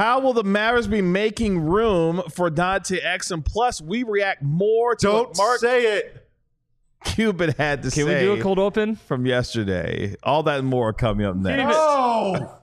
How will the Mavericks be making room for Dante Exum? Plus, we react more to what Mark say it. Cuban had to say. Can we do a cold open from yesterday? All that and more coming up next. Oh!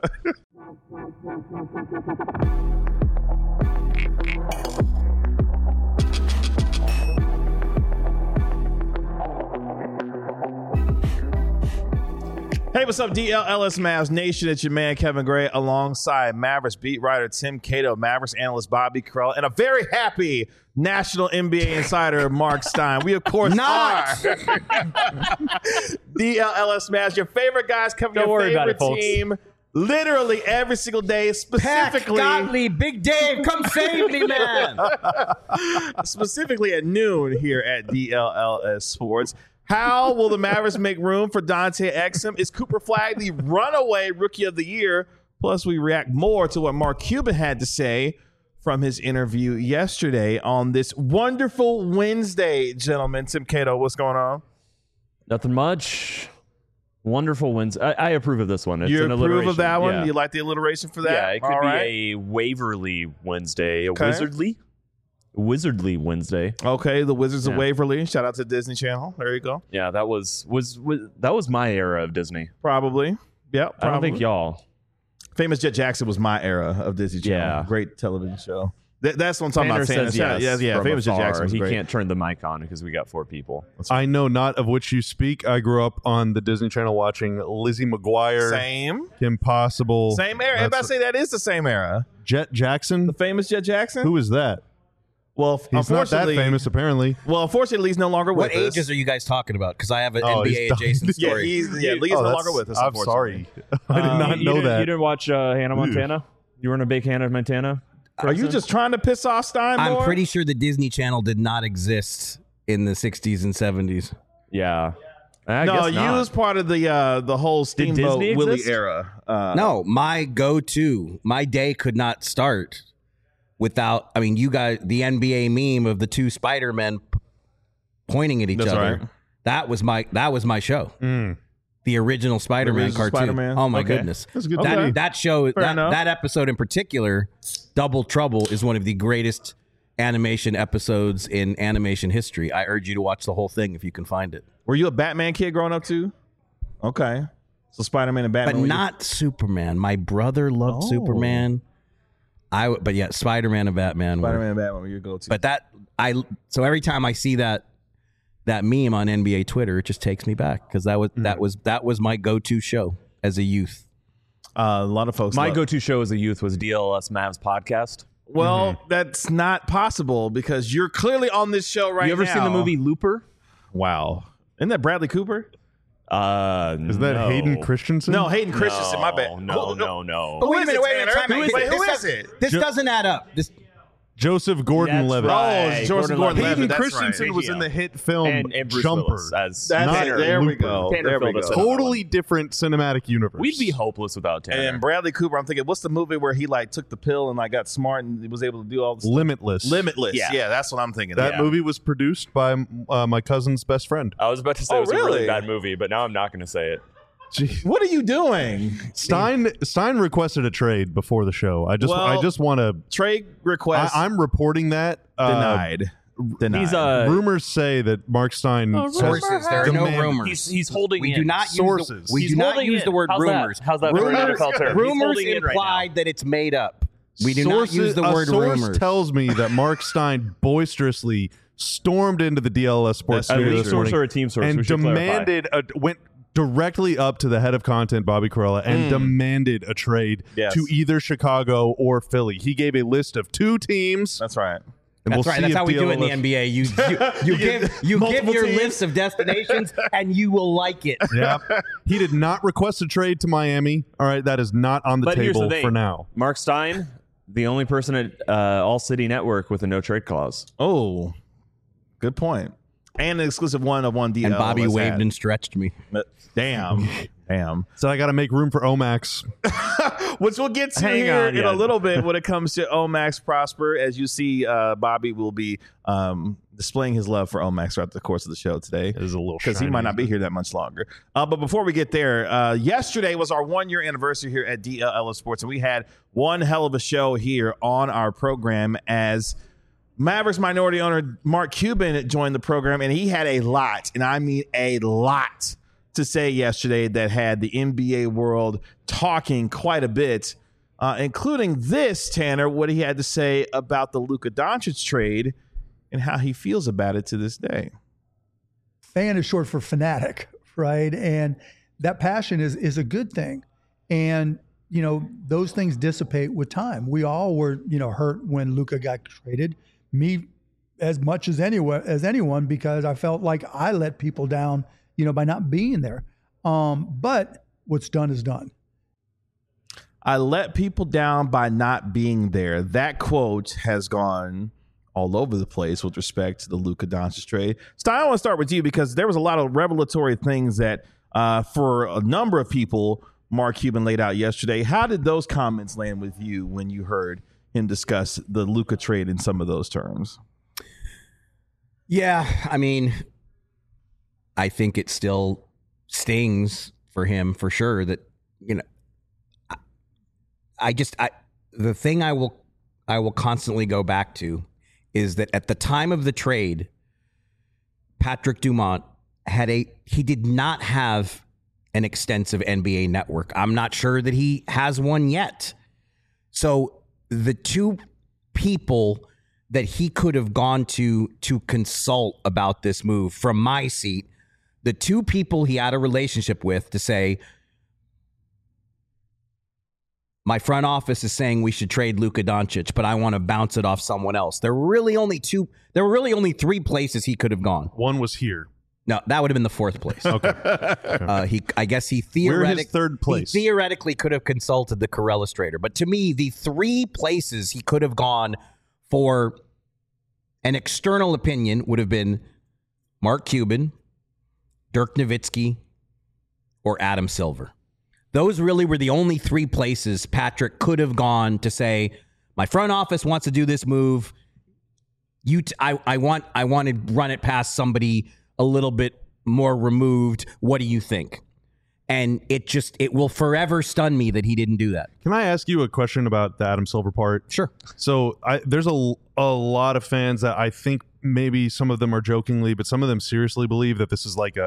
Hey, what's up, DLLS Mavs Nation? It's your man, Kevin Gray, alongside Mavericks beat writer Tim Cato, Mavericks analyst Bobby Carell, and a very happy national NBA insider, Mark Stein. We, of course, are DLLS Mavs, your favorite guys covering your favorite team literally every single day, specifically. Pat Gottlieb, Big Dave, come save me, man. Specifically at noon here at DLLS Sports. How will the Mavericks make room for Dante Exum? Is Cooper Flagg the runaway rookie of the year? Plus, we react more to what Mark Cuban had to say from his interview yesterday on this wonderful Wednesday, gentlemen. Tim Cato, what's going on? Nothing much. Wonderful Wednesday. I approve of this one. It's you an approve of that one? Yeah. You like the alliteration for that? Yeah, it could be a Waverly Wednesday, a Wizardly Wednesday. Okay, the Wizards of Waverly. Shout out to Disney Channel. There you go. Yeah, that was my era of Disney. Probably. Yeah, I don't think y'all. Famous Jet Jackson was my era of Disney Channel. Yeah. Great television show. That's what I'm talking Tanner about. Says yes yeah. Famous Jet Jackson was He great. can't turn the mic on because we got 4 people. I know not of which you speak. I grew up on the Disney Channel watching Lizzie McGuire. Same. Kim Possible. Same era. Everybody say that is the same era. Jet Jackson? The famous Jet Jackson? Who is that? Well, he's not that famous, apparently. Well, unfortunately, he's no longer with us. us. What ages are you guys talking about? Because I have an NBA adjacent story. Lee's no longer with us. I'm sorry. I did not know that. You didn't watch Hannah Montana? You weren't a big Hannah Montana person? Are you just trying to piss off Stein more? I'm pretty sure the Disney Channel did not exist in the 60s and 70s. Yeah. No, you was part of the whole Steamboat Willie era. No, my go-to, my day could not start without, I mean, you guys, the NBA meme of the 2 Spider-Men pointing at each other. Right. That was my show. The original Spider-Man cartoon. Spider-Man. Oh my goodness. That's a good That show, that episode in particular, Double Trouble, is one of the greatest animation episodes in animation history. I urge you to watch the whole thing if you can find it. Were you a Batman kid growing up too? Okay. So Spider-Man and Batman. But not Superman. My brother loved Superman. But yeah, Spider-Man and Batman. Spider-Man and Batman were your go-to. But so every time I see that meme on NBA Twitter, it just takes me back because that was my go-to show as a youth. A lot of folks. My go-to show as a youth was DLS Mavs podcast. Well, that's not possible because you're clearly on this show right now. You ever seen the movie Looper? Wow. Isn't that Bradley Cooper? Is that Hayden Christensen? No, Hayden Christensen. My bad. No. But wait a minute. Who is it? This doesn't add up. Joseph Gordon-Levitt. Oh, Joseph Gordon-Levitt. Hayden That's Christensen right. was in the hit film and Bruce Jumper. Willis as There we Looper. go. Tanner There we filled go. us in. Totally different cinematic universe. We'd be hopeless without Tanner. And Bradley Cooper, I'm thinking, what's the movie where he took the pill and got smart and he was able to do all this? Limitless. Limitless. Yeah, that's what I'm thinking. That movie was produced by my cousin's best friend. I was about to say it was really? a really bad movie, but now I'm not going to say it. What are you doing? Stein requested a trade before the show. I just want to trade request. I'm reporting that denied. He's rumors say that Mark Stein Sources. There are no rumors. He's holding We in. do not Sources. We do not use the word rumors. How's that for an NFL term? He's Rumors holding in right implied that it's made up. We do Sources, not use the word a source rumors. tells me that Mark Stein boisterously stormed into the DLS Sports A studio league this source morning or a team source? We and should clarify. demanded went directly up to the head of content, Bobby Carella, and demanded a trade to either Chicago or Philly. He gave a list of 2 teams. That's right. And That's right. That's how we do it in the NBA. You give your list of destinations, and you will like it. Yeah. He did not request a trade to Miami. All right, that is not on the But here's table the thing. for now. Mark Stein, the only person at All City Network with a no trade clause. Oh, good point. And an exclusive one of one DL. And Bobby waved and stretched me. Damn. Damn. So I got to make room for Omax. Which we'll get to in a little bit when it comes to Omax Prosper. As you see, Bobby will be displaying his love for Omax throughout the course of the show today. It is a little because he might not be here that much longer. But before we get there, yesterday was our 1-year anniversary here at DLL Sports, and we had one hell of a show here on our program as Mavericks minority owner Mark Cuban joined the program, and he had a lot, and I mean a lot, to say yesterday that had the NBA world talking quite a bit, including this, Tanner, what he had to say about the Luka Doncic trade and how he feels about it to this day. Fan is short for fanatic, right? And that passion is a good thing. And, you know, those things dissipate with time. We all were, you know, hurt when Luka got traded. Me as much as anyone, because I felt like I let people down, you know, by not being there. But what's done is done. I let people down by not being there. That quote has gone all over the place with respect to the Luka Doncic trade. Stein, I want to start with you because there was a lot of revelatory things that for a number of people, Mark Cuban laid out yesterday. How did those comments land with you when you heard him discuss the Luka trade in some of those terms? Yeah, I mean, I think it still stings for him for sure that, you know, the thing I will constantly go back to is that at the time of the trade, Patrick Dumont he did not have an extensive NBA network. I'm not sure that he has one yet. So the two people that he could have gone to consult about this move from my seat, the two people he had a relationship with to say, my front office is saying we should trade Luka Doncic, but I want to bounce it off someone else. There were really only three places he could have gone. One was here. No, that would have been the fourth place. Okay. I guess he We're his third place. He theoretically could have consulted the Corellis trader. But to me, the three places he could have gone for an external opinion would have been Mark Cuban, Dirk Nowitzki, or Adam Silver. Those really were the only three places Patrick could have gone to say, my front office wants to do this move. I want to run it past somebody a little bit more removed. What do you think? And it will forever stun me that he didn't do that. Can I ask you a question about the Adam Silver part? Sure. So there's a lot of fans that I think maybe some of them are jokingly, but some of them seriously believe that this is like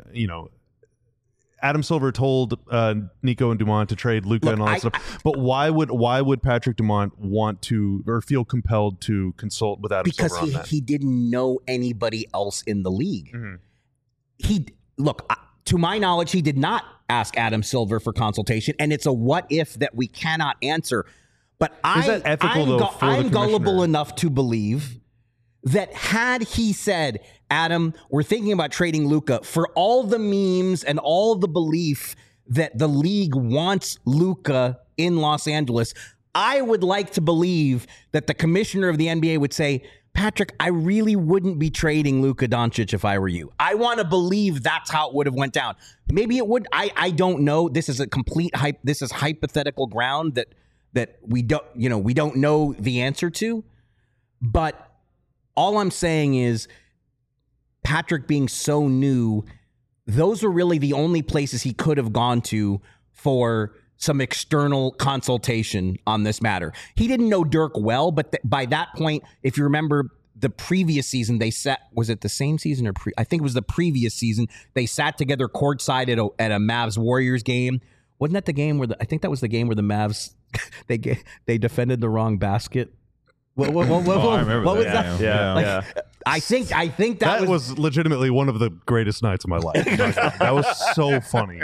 Adam Silver told Nico and Dumont to trade Luka and all that stuff. But why would Patrick Dumont want to or feel compelled to consult with Adam Silver on that? Because he didn't know anybody else in the league. Mm-hmm. To my knowledge, he did not ask Adam Silver for consultation, and it's a what if that we cannot answer. But I'm gullible enough to believe that had he said, Adam, we're thinking about trading Luka, for all the memes and all the belief that the league wants Luka in Los Angeles, I would like to believe that the commissioner of the NBA would say, Patrick, I really wouldn't be trading Luka Doncic if I were you. I want to believe that's how it would have went down. Maybe it would. I don't know. This is a complete this is hypothetical ground that we don't know the answer to. But all I'm saying is Patrick being so new, those are really the only places he could have gone to for some external consultation on this matter. He didn't know Dirk well, but by that point, if you remember the previous season, was it the same season or I think it was the previous season, they sat together courtside at a Mavs Warriors game. Wasn't that the game where I think that was the game where the Mavs, they defended the wrong basket? What was that? Yeah. I think that was legitimately one of the greatest nights of my life. That was so funny.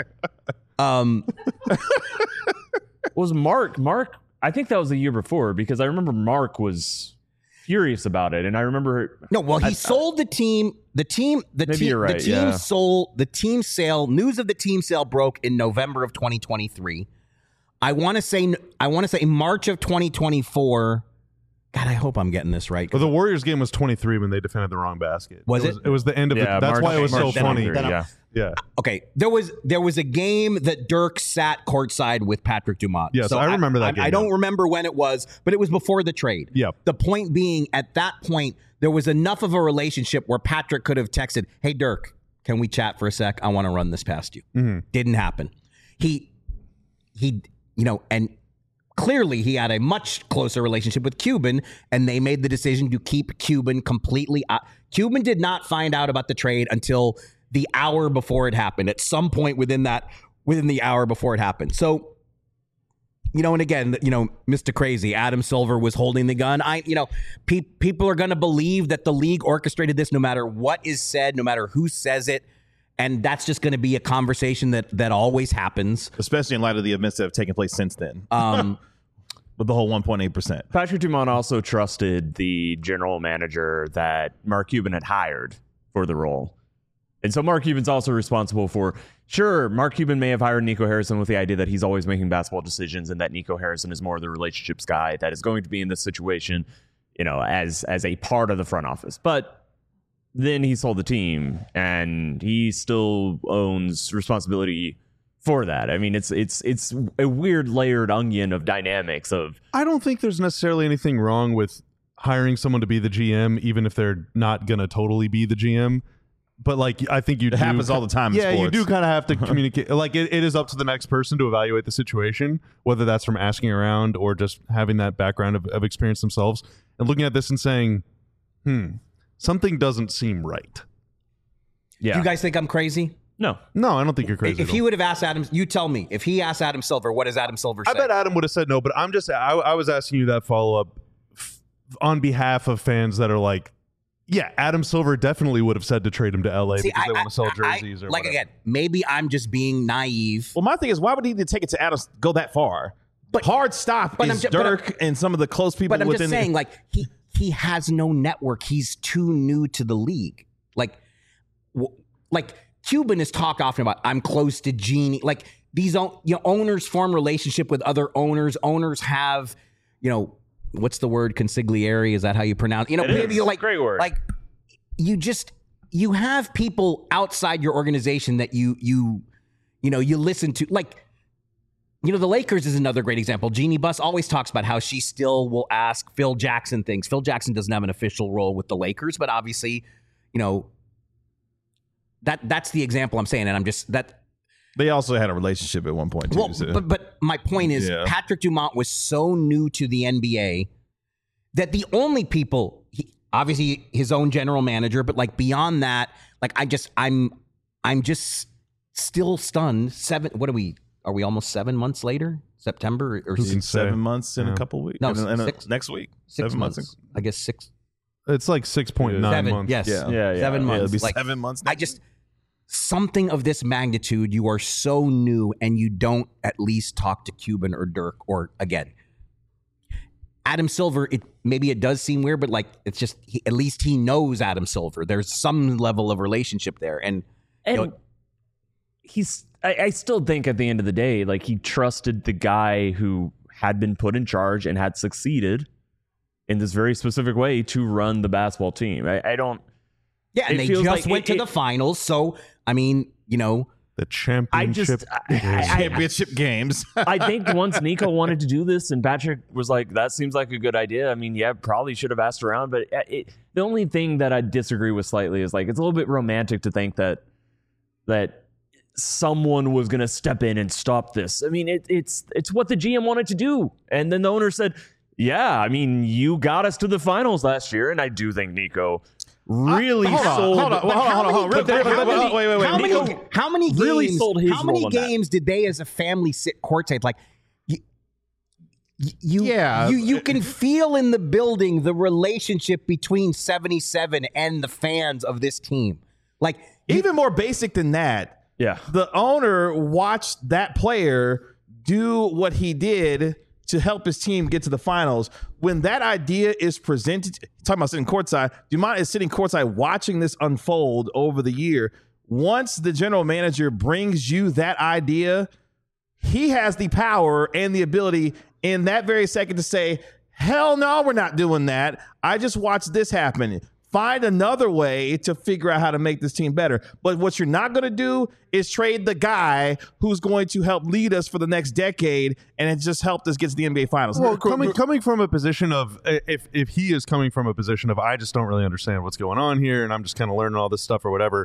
Was Mark? I think that was the year before because I remember Mark was furious about it, and I remember. No, well, he sold the team. The team sold the team sale. News of the team sale broke in November of 2023. I want to say March of 2024. God, I hope I'm getting this right. Well, the Warriors game was 23 when they defended the wrong basket. Was it? It was the end of it. That's why it was so funny. Yeah. Okay, there was a game that Dirk sat courtside with Patrick Dumont. Yes, I remember that game. I don't remember when it was, but it was before the trade. Yep. The point being, at that point, there was enough of a relationship where Patrick could have texted, "Hey, Dirk, can we chat for a sec? I want to run this past you." Mm-hmm. Didn't happen. He, and clearly he had a much closer relationship with Cuban, and they made the decision to keep Cuban completely out. Cuban did not find out about the trade until the hour before it happened, at some point within the hour before it happened. So, and again, Mr. Crazy, Adam Silver was holding the gun. People are going to believe that the league orchestrated this no matter what is said, no matter who says it. And that's just going to be a conversation that always happens. Especially in light of the events that have taken place since then. With the whole 1.8%. Patrick Dumont also trusted the general manager that Mark Cuban had hired for the role. And so Mark Cuban's also responsible for, sure, Mark Cuban may have hired Nico Harrison with the idea that he's always making basketball decisions and that Nico Harrison is more the relationships guy that is going to be in this situation, as a part of the front office. But then he sold the team and he still owns responsibility for that. I mean, it's a weird layered onion of dynamics of. I don't think there's necessarily anything wrong with hiring someone to be the GM, even if they're not going to totally be the GM. But I think it happens all the time. Yeah, in sports. You do kind of have to communicate. It is up to the next person to evaluate the situation, whether that's from asking around or just having that background of experience themselves and looking at this and saying, something doesn't seem right. Yeah. Do you guys think I'm crazy? No, I don't think you're crazy. If he would have asked Adam, you tell me. If he asked Adam Silver, what does Adam Silver say? I bet Adam would have said no, but I was asking you that follow-up on behalf of fans that are like, yeah, Adam Silver definitely would have said to trade him to LA because they want to sell jerseys or whatever. Again, maybe I'm just being naive. Well, my thing is, why would he need to take it to Adam, go that far? But hard stop is Dirk and some of the close people within. But I'm just saying, he has no network. He's too new to the league. Like Cuban is talk often about, I'm close to Genie. Like these owners form relationship with other owners. Owners have, what's the word? Consigliere? Is that how you pronounce? Great word. Like you have people outside your organization that you listen to. Like, the Lakers is another great example. Jeannie Buss always talks about how she still will ask Phil Jackson things. Phil Jackson doesn't have an official role with the Lakers, but obviously, that's the example I'm saying. And I'm just that. They also had a relationship at one point too. Well, but my point is, Patrick Dumont was so new to the NBA that the only people, obviously his own general manager, but beyond that, I'm just still stunned. Are we almost 7 months later? September or 7 months in a couple weeks? No, next week. 6 months. I guess 6. It's like 6.9 months. Yes. Yeah. 7 months. It'll be 7 months. Something of this magnitude, you are so new and you don't at least talk to Cuban or Dirk or, again, Adam Silver, maybe it does seem weird, but it's just, at least he knows Adam Silver. There's some level of relationship there. And I still think at the end of the day, he trusted the guy who had been put in charge and had succeeded in this very specific way to run the basketball team. I don't. Yeah, and they just went to the finals. So, the championship championship games. I think once Nico wanted to do this and Patrick was like, that seems like a good idea. I mean, probably should have asked around. But the only thing that I disagree with slightly is it's a little bit romantic to think that someone was going to step in and stop this. I mean, it's what the GM wanted to do. And then the owner said, yeah, I mean, you got us to the finals last year. And I do think Nico really sold. Hold on. Wait. How many games? Really sold his how many role on games did they, as a family, sit courtside? You can feel in the building the relationship between 77 and the fans of this team. Even more basic than that. Yeah, the owner watched that player do what he did to help his team get to the finals. When that idea is presented, talking about sitting courtside, Dumont is sitting courtside watching this unfold over the year. Once the general manager brings you that idea, he has the power and the ability in that very second to say, Hell no, we're not doing that. I just watched this happen. Find another way to figure out how to make this team better. But what you're not going to do is trade the guy who's going to help lead us for the next decade and it just helped us get to the NBA Finals. Well, coming from a position of, if he is coming from a position of, I just don't really understand what's going on here and I'm just kind of learning all this stuff or whatever.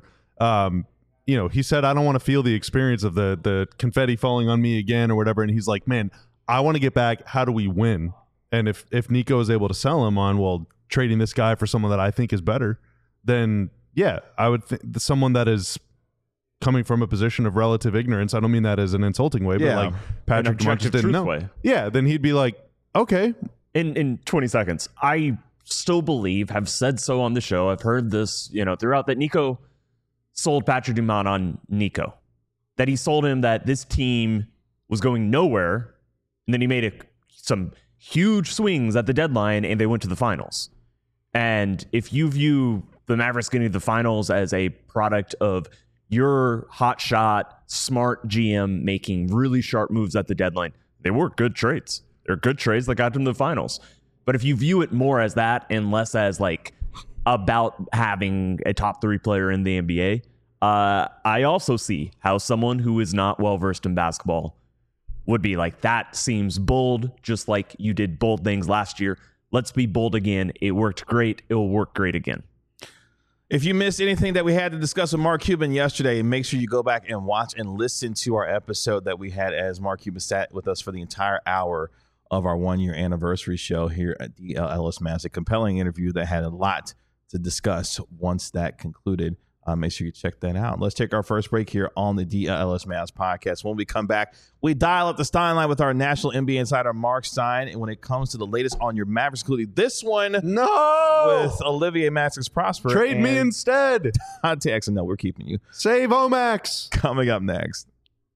He said, I don't want to feel the experience of the confetti falling on me again or whatever. And he's like, man, I want to get back. How do we win? And if Nico is able to sell him on, well, trading this guy for someone that I think is better, then yeah, I would think someone that is coming from a position of relative ignorance. I don't mean that as an insulting way, but like Patrick just didn't know. Way. Yeah, then he'd be like, okay. In 20 seconds, I still believe, have said so on the show, I've heard this, throughout, that Nico sold Patrick Dumont on Nico. That he sold him that this team was going nowhere, and then he made some huge swings at the deadline, and they went to the finals. And if you view the Mavericks getting to the finals as a product of your hotshot, smart GM making really sharp moves at the deadline, they were good trades. They're good trades that got them to the finals. But if you view it more as that and less as like about having a top 3 player in the NBA, I also see how someone who is not well-versed in basketball would be like, that seems bold, just like you did bold things last year. Let's be bold again. It worked great. It will work great again. If you missed anything that we had to discuss with Mark Cuban yesterday, make sure you go back and watch and listen to our episode that we had as Mark Cuban sat with us for the entire hour of our 1-year anniversary show here at DLLS Mavs. A compelling interview that had a lot to discuss once that concluded. Make sure you check that out. Let's take our first break here on the DLS Mavs podcast. When we come back, we dial up the Stein line with our national NBA insider, Mark Stein. And when it comes to the latest on your Mavericks, including this one with Olivier Maxix Prosper. Trade me instead. Dante Exum. No, we're keeping you. Save Omax. Coming up next.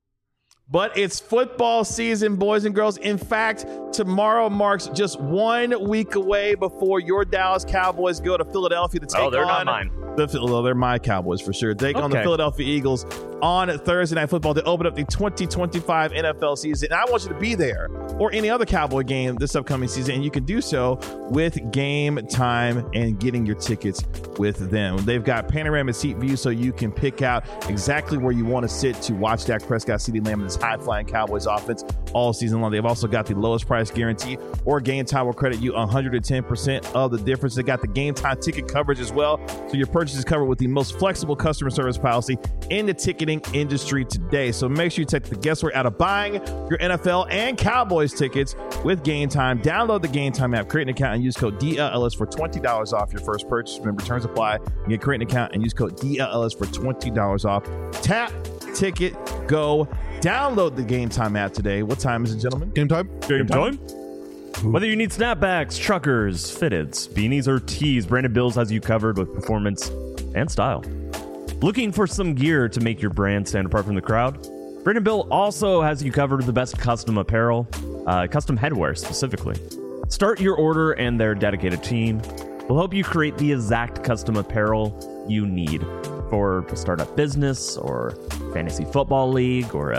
But it's football season, boys and girls. In fact, tomorrow marks just 1 week away before your Dallas Cowboys go to Philadelphia to take on... they're not mine. They're my Cowboys for sure. Take on the Philadelphia Eagles on Thursday Night Football to open up the 2025 NFL season. And I want you to be there or any other Cowboy game this upcoming season. And you can do so with Game Time and getting your tickets with them. They've got panoramic seat view so you can pick out exactly where you want to sit to watch Dak Prescott, CeeDee Lamb, and this high-flying Cowboys offense all season long. They've also got the lowest price guarantee, or Game Time will credit you 110% of the difference. They got the Game Time ticket coverage as well, so your purchase is covered with the most flexible customer service policy in the ticketing industry today. So make sure you take the guesswork out of buying your NFL and Cowboys tickets with Game Time. Download the Game Time app, create an account, and use code DLLS for $20 off your first purchase. Remember, terms apply. You can create an account and use code DLLS for $20 off. Tap, ticket, go. Download the Game Time app today. What time is it, gentlemen? Game time. Game time. Whether you need snapbacks, truckers, fitteds, beanies, or tees, Brandon Bills has you covered with performance and style. Looking for some gear to make your brand stand apart from the crowd? Brandon Bill also has you covered with the best custom apparel, custom headwear specifically. Start your order and their dedicated team will help you create the exact custom apparel you need for a startup business or fantasy football league or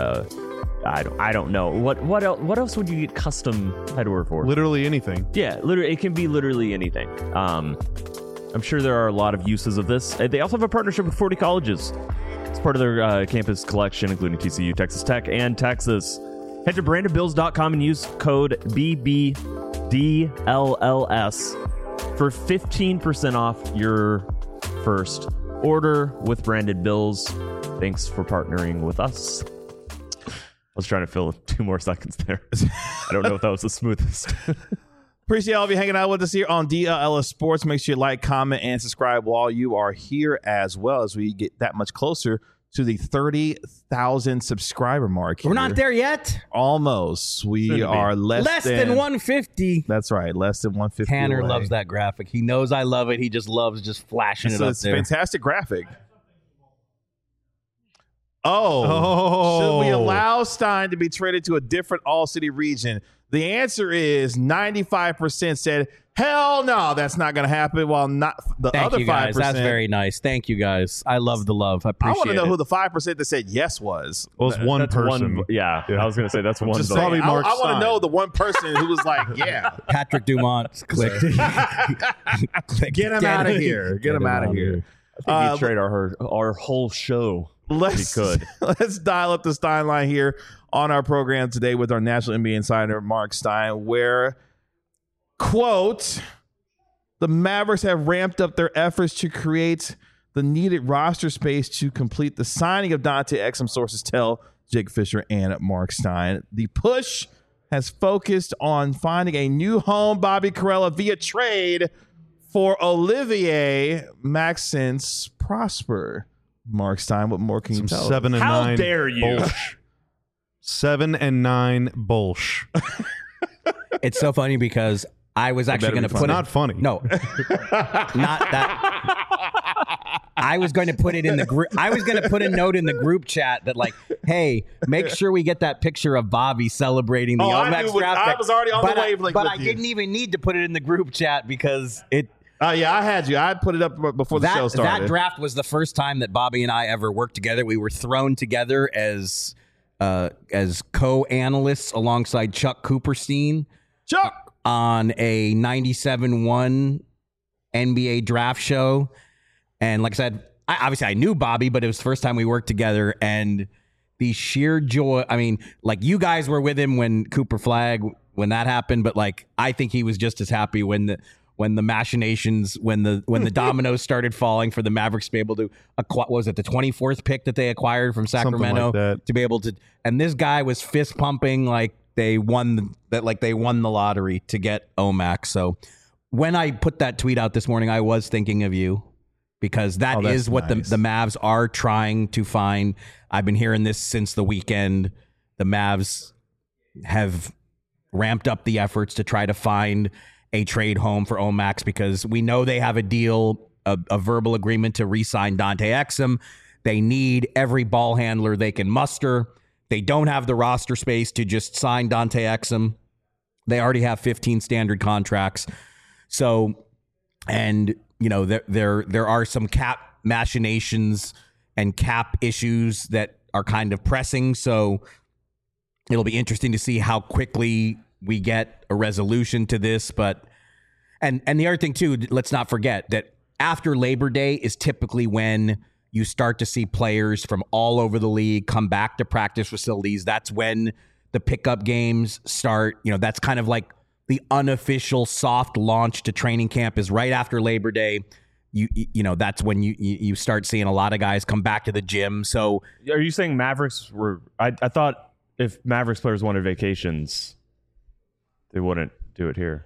I don't know. What else would you get custom headwear for? Literally anything. Yeah, literally, it can be literally anything. I'm sure there are a lot of uses of this. They also have a partnership with 40 colleges. It's part of their campus collection, including TCU, Texas Tech, and Texas. Head to BrandonBills.com and use code BBDLLS for 15% off your first order with Brandon Bills. Thanks for partnering with us. I was trying to fill 2 more seconds there. I don't know if that was the smoothest. Appreciate all of you hanging out with us here on DLLS Sports. Make sure you like, comment, and subscribe while you are here as well as we get that much closer to the 30,000 subscriber mark. We're not there yet. Almost. We are less than 150. That's right. Less than 150. Tanner away. loves that graphic. He knows I love it. He just loves just flashing it up It's there. a fantastic graphic. Should we allow Stein to be traded to a different all-city region? The answer is 95% said, Hell no, that's not going to happen. While not the Thank other you guys. 5%. That's very nice. Thank you guys. I love the love. I I appreciate want to know it. who the 5% that said yes was. Well, it's one That's person. Yeah, I was going to say that's one. Just vote. saying, Probably I Mark want to Stein. know the one person who was like, yeah, Patrick Dumont. Click. get him out of here. Get him out of here. I think you trade our whole show. Let's could. let's dial up the Stein line here on our program today with our National NBA insider Mark Stein, where, quote, the Mavericks have ramped up their efforts to create the needed roster space to complete the signing of Dante Exum, sources tell Jake Fisher and Mark Stein. The push has focused on finding a new home, Bobby Karalla, via trade for Olivier Maxence Prosper. Mark Stein, what more can you Some tell us? 7 and How 9. dare you? Bullsh. 7 and 9 bullsh. It's so funny because I was actually going to It's put not it. funny. No, not that. I was going to put it in the group. I was going to put a note in the group chat that, like, hey, make sure we get that picture of Bobby celebrating the I Omax knew draft. I was already on but the wavelength but with I you. didn't even need to put it in the group chat because it. Yeah, I had you. I put it up before the show started. That draft was the first time that Bobby and I ever worked together. We were thrown together as co-analysts alongside Chuck Cooperstein Chuck! on a 97-1 NBA draft show. And like I said, obviously I knew Bobby, but it was the first time we worked together. And the sheer joy, I mean, like, you guys were with him when Cooper Flag, when that happened, but like, I think he was just as happy when the machinations, when the dominoes started falling for the Mavericks to be able to acquire, what was it, the 24th pick that they acquired from Sacramento, like that. to be able to, and this guy was fist pumping like they won the lottery to get Omax. So when I put that tweet out this morning, I was thinking of you, because that that's is what nice. the Mavs are trying to find. I've been hearing this since the weekend. The Mavs have ramped up the efforts to try to find a trade home for Omax, because we know they have a deal, a verbal agreement to re-sign Dante Exum. They need every ball handler they can muster. They don't have the roster space to just sign Dante Exum. They already have 15 standard contracts. So, and you know, there are some cap machinations and cap issues that are kind of pressing. So it'll be interesting to see how quickly we get a resolution to this. But and the other thing too, let's not forget that after Labor Day is typically when you start to see players from all over the league come back to practice facilities. That's when the pickup games start. You know, that's kind of like the unofficial soft launch to training camp is right after Labor Day. You know, that's when you start seeing a lot of guys come back to the gym. So Are you saying Mavericks were? I thought if Mavericks players wanted vacations, they wouldn't do it here.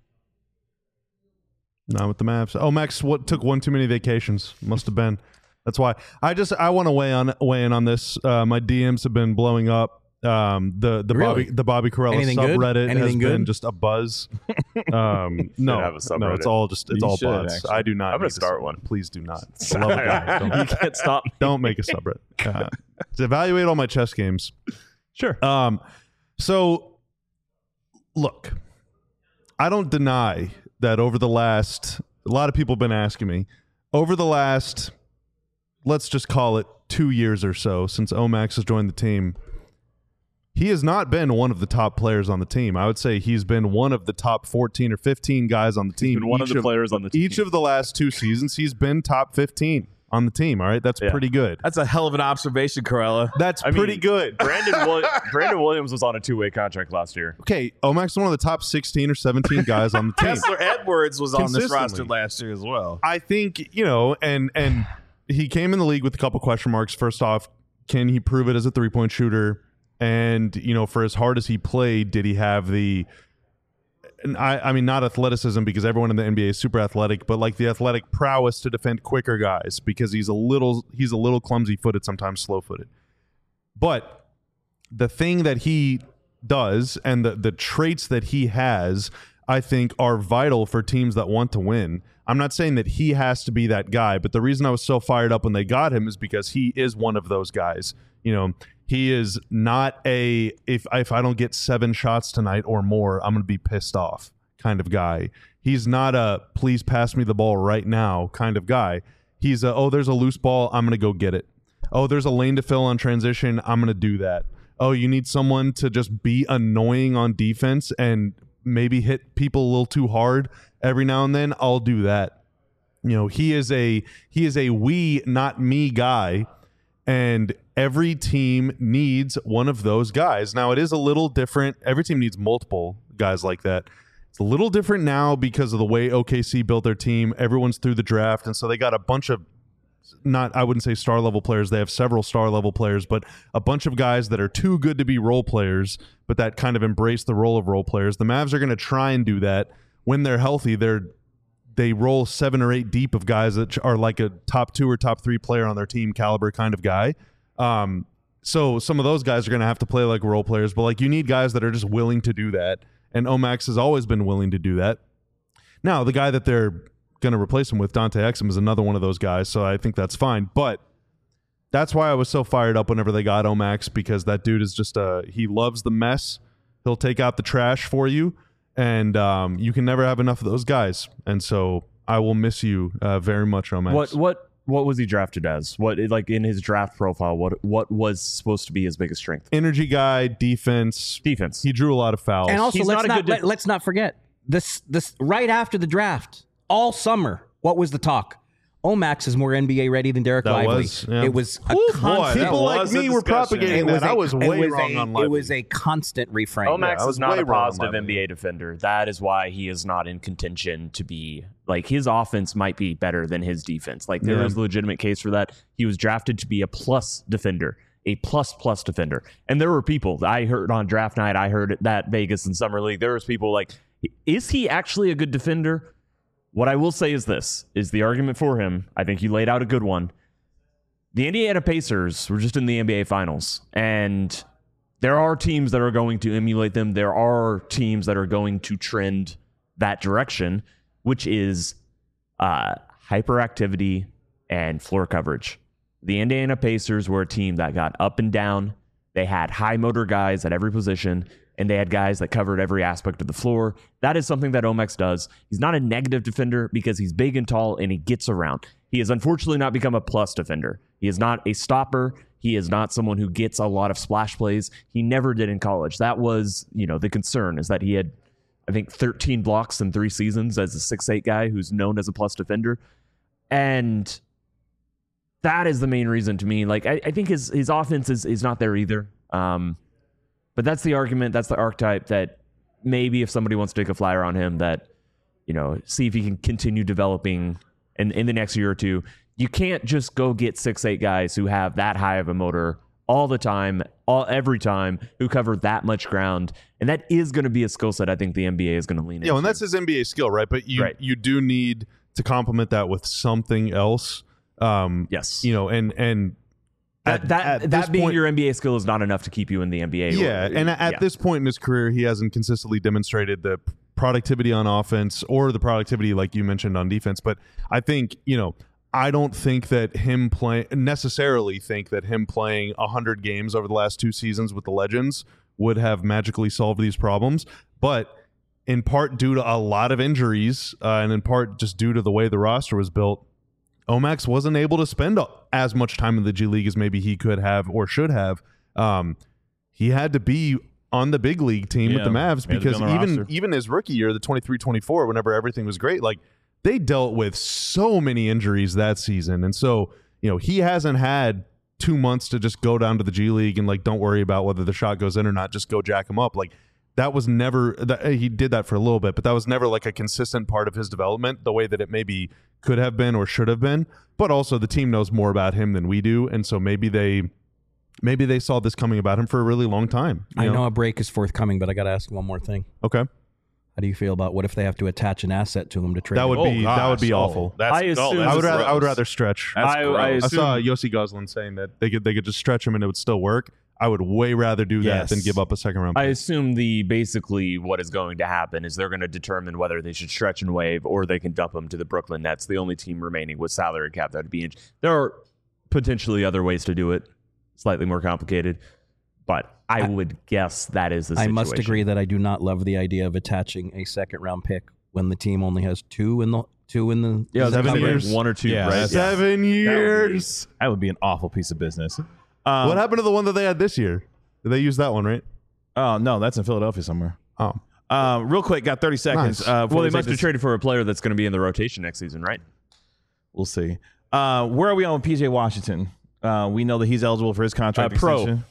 Not with the Mavs. Oh, Max, what took one too many vacations? Must have been. That's why. I want to weigh in on this. My DMs have been blowing up. The Really? Bobby Karalla Anything good? subreddit has Anything good? been just a buzz. No, have a subreddit. no, it's all You should, bots. actually. I do not. I'm gonna make a start sub- one. Please do not. I love it, guys. you Don't, can't stop. don't make a subreddit. To evaluate all my chess games. Sure. So, look, I don't deny that over the last, a lot of people have been asking me, over the last, let's just call it 2 years or so since Omax has joined the team, he has not been one of the top players on the team. I would say he's been one of the top 14 or 15 guys on the team. Been one of the players on the team. Each of the last 2 seasons, he's been top 15 on the team. All right, that's pretty good. That's a hell of an observation, Karalla. That's pretty good. Brandon Williams was on a 2-way contract last year. Okay, Omax is one of the top 16 or 17 guys on the team. Kessler Edwards was on this Consistently. roster last year as well. I think, you know, and he came in the league with a couple question marks. First off, can he prove it as a three-point shooter? And, you know, for as hard as he played, did he have the, and I mean, not athleticism, because everyone in the NBA is super athletic, but like the athletic prowess to defend quicker guys, because he's a little clumsy-footed, sometimes slow-footed. But the thing that he does and the traits that he has, I think, are vital for teams that want to win. I'm not saying that he has to be that guy, but the reason I was so fired up when they got him is because he is one of those guys. You know, he is not if I don't get 7 shots tonight or more, I'm going to be pissed off kind of guy. He's not a please pass me the ball right now kind of guy. He's there's a loose ball, I'm going to go get it. Oh, there's a lane to fill on transition, I'm going to do that. Oh, you need someone to just be annoying on defense and maybe hit people a little too hard every now and then, I'll do that. He is a we, not me guy, and every team needs one of those guys. Now, it is a little different. Every team needs multiple guys like that. It's a little different now because of the way OKC built their team. Everyone's through the draft, and so they got a bunch of I wouldn't say star level players. They have several star level players, but a bunch of guys that are too good to be role players, but that kind of embrace the role of role players. The Mavs are going to try and do that when they're healthy. They roll 7 or 8 deep of guys that are like a top 2 or top 3 player on their team caliber kind of guy. So some of those guys are going to have to play like role players, but like you need guys that are just willing to do that. And Omax has always been willing to do that. Now, the guy that they're going to replace him with, Dante Exum, is another one of those guys, so I think that's fine. But that's why I was so fired up whenever they got Omax, because that dude is just he loves the mess. He'll take out the trash for you, and you can never have enough of those guys. And so I will miss you very much, Omax. What was he drafted as? What, like, in his draft profile, what was supposed to be his biggest strength? Energy guy, defense. He drew a lot of fouls. And also, He's let's not forget this right after the draft, all summer, what was the talk? Omax is more NBA ready than Derek Lively. Yeah. It was a boy, people like me were propagating that. I was way wrong on Lively. It was a constant refrain. Omax is not a positive NBA NBA defender. That is why he is not in contention to be, like, his offense might be better than his defense. Like, there is a legitimate case for that. He was drafted to be a plus defender, a plus defender. And there were people, I heard on draft night, I heard that Vegas and Summer League, there was people like, is he actually a good defender? What I will say is this, is the argument for him. I think you laid out a good one. The Indiana Pacers were just in the NBA Finals, and there are teams that are going to emulate them. There are teams that are going to trend that direction, which is hyperactivity and floor coverage. The Indiana Pacers were a team that got up and down. They had high motor guys at every position, and they had guys that covered every aspect of the floor. That is something that Omax does. He's not a negative defender because he's big and tall and he gets around. He has unfortunately not become a plus defender. He is not a stopper. He is not someone who gets a lot of splash plays. He never did in college. That was, the concern, is that he had, I think, 13 blocks in 3 seasons as a 6'8" guy who's known as a plus defender. And that is the main reason to me. Like, I think his offense is not there either. But that's the argument, that's the archetype that maybe if somebody wants to take a flyer on him, that, see if he can continue developing in the next year or two. You can't just go get 6'8" guys who have that high of a motor all the time, every time, who cover that much ground. And that is going to be a skill set I think the NBA is going to lean into. Yeah, and that's his NBA skill, right? But you do need to complement that with something else. Yes. And that being your NBA skill is not enough to keep you in the NBA. Yeah, and at this point in his career, he hasn't consistently demonstrated the productivity on offense or the productivity, like you mentioned, on defense. But I think, I don't think that him playing 100 games over the last 2 seasons with the Legends would have magically solved these problems. But in part due to a lot of injuries, and in part just due to the way the roster was built, Omax wasn't able to spend as much time in the G League as maybe he could have or should have. He had to be on the big league team with the Mavs because even his rookie year, the 23-24, whenever everything was great, like, they dealt with so many injuries that season. And so, he hasn't had 2 months to just go down to the G League and, like, don't worry about whether the shot goes in or not, just go jack him up. Like, that was never he did that for a little bit, but that was never like a consistent part of his development the way that it maybe could have been or should have been. But also the team knows more about him than we do, and so maybe they saw this coming about him for a really long time. I know a break is forthcoming, but I got to ask one more thing. Okay. How do you feel about what if they have to attach an asset to him to trade? That would be awful. I would rather stretch. I saw Yossi Goslin saying that they could just stretch him and it would still work. I would way rather do that than give up a second round pick. I assume basically what is going to happen is they're going to determine whether they should stretch and waive or they can dump him to the Brooklyn Nets, the only team remaining with salary cap that would be in. There are potentially other ways to do it, slightly more complicated, but I would guess that is the situation. I must agree that I do not love the idea of attaching a second round pick when the team only has two in the Yeah, 7 years. 1 or 2, Yeah, right? 7 years. That would be an awful piece of business. What happened to the one that they had this year? Did they use that one, right? Oh, no, that's in Philadelphia somewhere. Oh. Real quick, got 30 seconds. Nice. Before Well, we they take must have this- traded for a player that's going to be in the rotation next season, right? We'll see. Where are we on with PJ Washington? We know that he's eligible for his contract Pro. extension.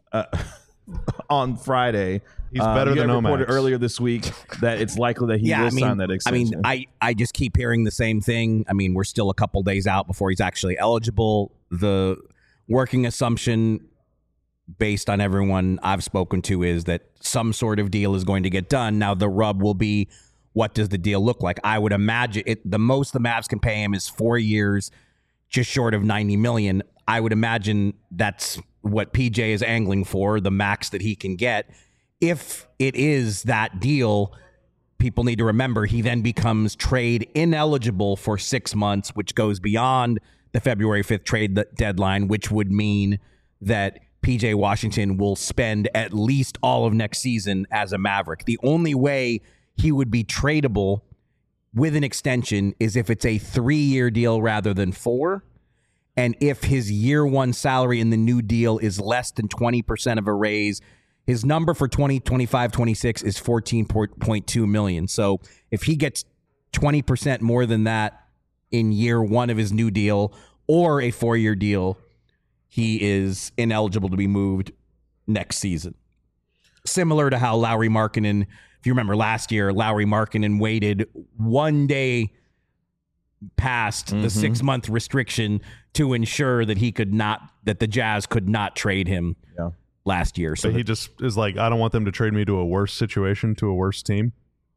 On Friday. He's better you than guys reported Omax. earlier this week that it's likely that he will sign that extension. I just keep hearing the same thing. I mean, we're still a couple days out before he's actually eligible. The working assumption based on everyone I've spoken to is that some sort of deal is going to get done. Now, the rub will be, what does the deal look like? I would imagine the most the Mavs can pay him is 4 years, just short of $90 million. I would imagine that's what PJ is angling for, the max that he can get. If it is that deal, people need to remember he then becomes trade ineligible for 6 months, which goes beyond the February 5th trade deadline, which would mean that PJ Washington will spend at least all of next season as a Maverick. The only way he would be tradable with an extension is if it's a 3-year deal rather than 4. And if his year one salary in the new deal is less than 20% of a raise, his number for 2025-26 is $14.2 million. So if he gets 20% more than that in year one of his new deal or a 4-year deal, he is ineligible to be moved next season. Similar to how Lauri Markkanen, if you remember last year, Lauri Markkanen waited 1 day past the 6-month restriction to ensure that that the Jazz could not trade him last year. So But he just is like, I don't want them to trade me to a worse situation, to a worse team.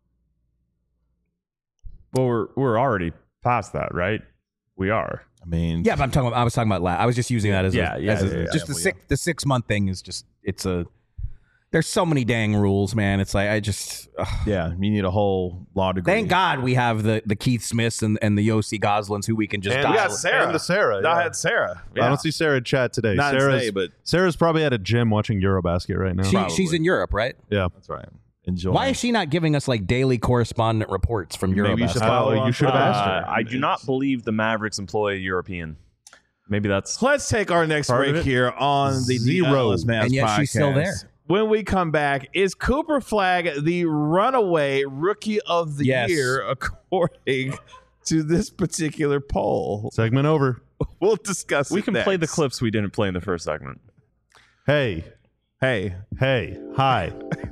Well, we're already past that, right? We are. I mean, yeah, but I was talking about I was just using that as Yeah, just the 6 month thing is just there's so many dang rules, man. It's like yeah, you need a whole law degree. thank God we have the Keith Smiths and the Yossi Goslins who we can just And dial. we got Sarah. And the Sarah. I yeah. had Sarah. I don't see Sarah in chat today. Not today, but Sarah's probably at a gym watching Eurobasket right now. She's in Europe, right? Yeah. that's right. Enjoy. Why is she not giving us like daily correspondent reports from Europe? Maybe you should follow her you on should have asked her. I do not believe the Mavericks employ a European. Maybe that's Let's take our next Part of break it? here on the Zero. DLS Mavs And yet podcast. she's still there. When we come back, is Cooper Flagg the runaway rookie of the Yes. year according to this particular poll? Segment over. We'll discuss we it can play the next. clips we didn't play in the first segment. Hey. Hey, Hi.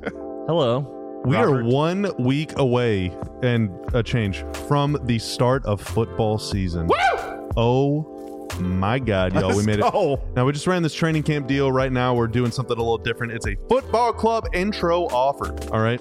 Hello. We Robert. are 1 week away and a change from the start of football season. Woo! Oh my God, y'all. We made it. go. Now, we just ran this training camp deal. Right now, we're doing something a little different. It's a football club intro offer. All right.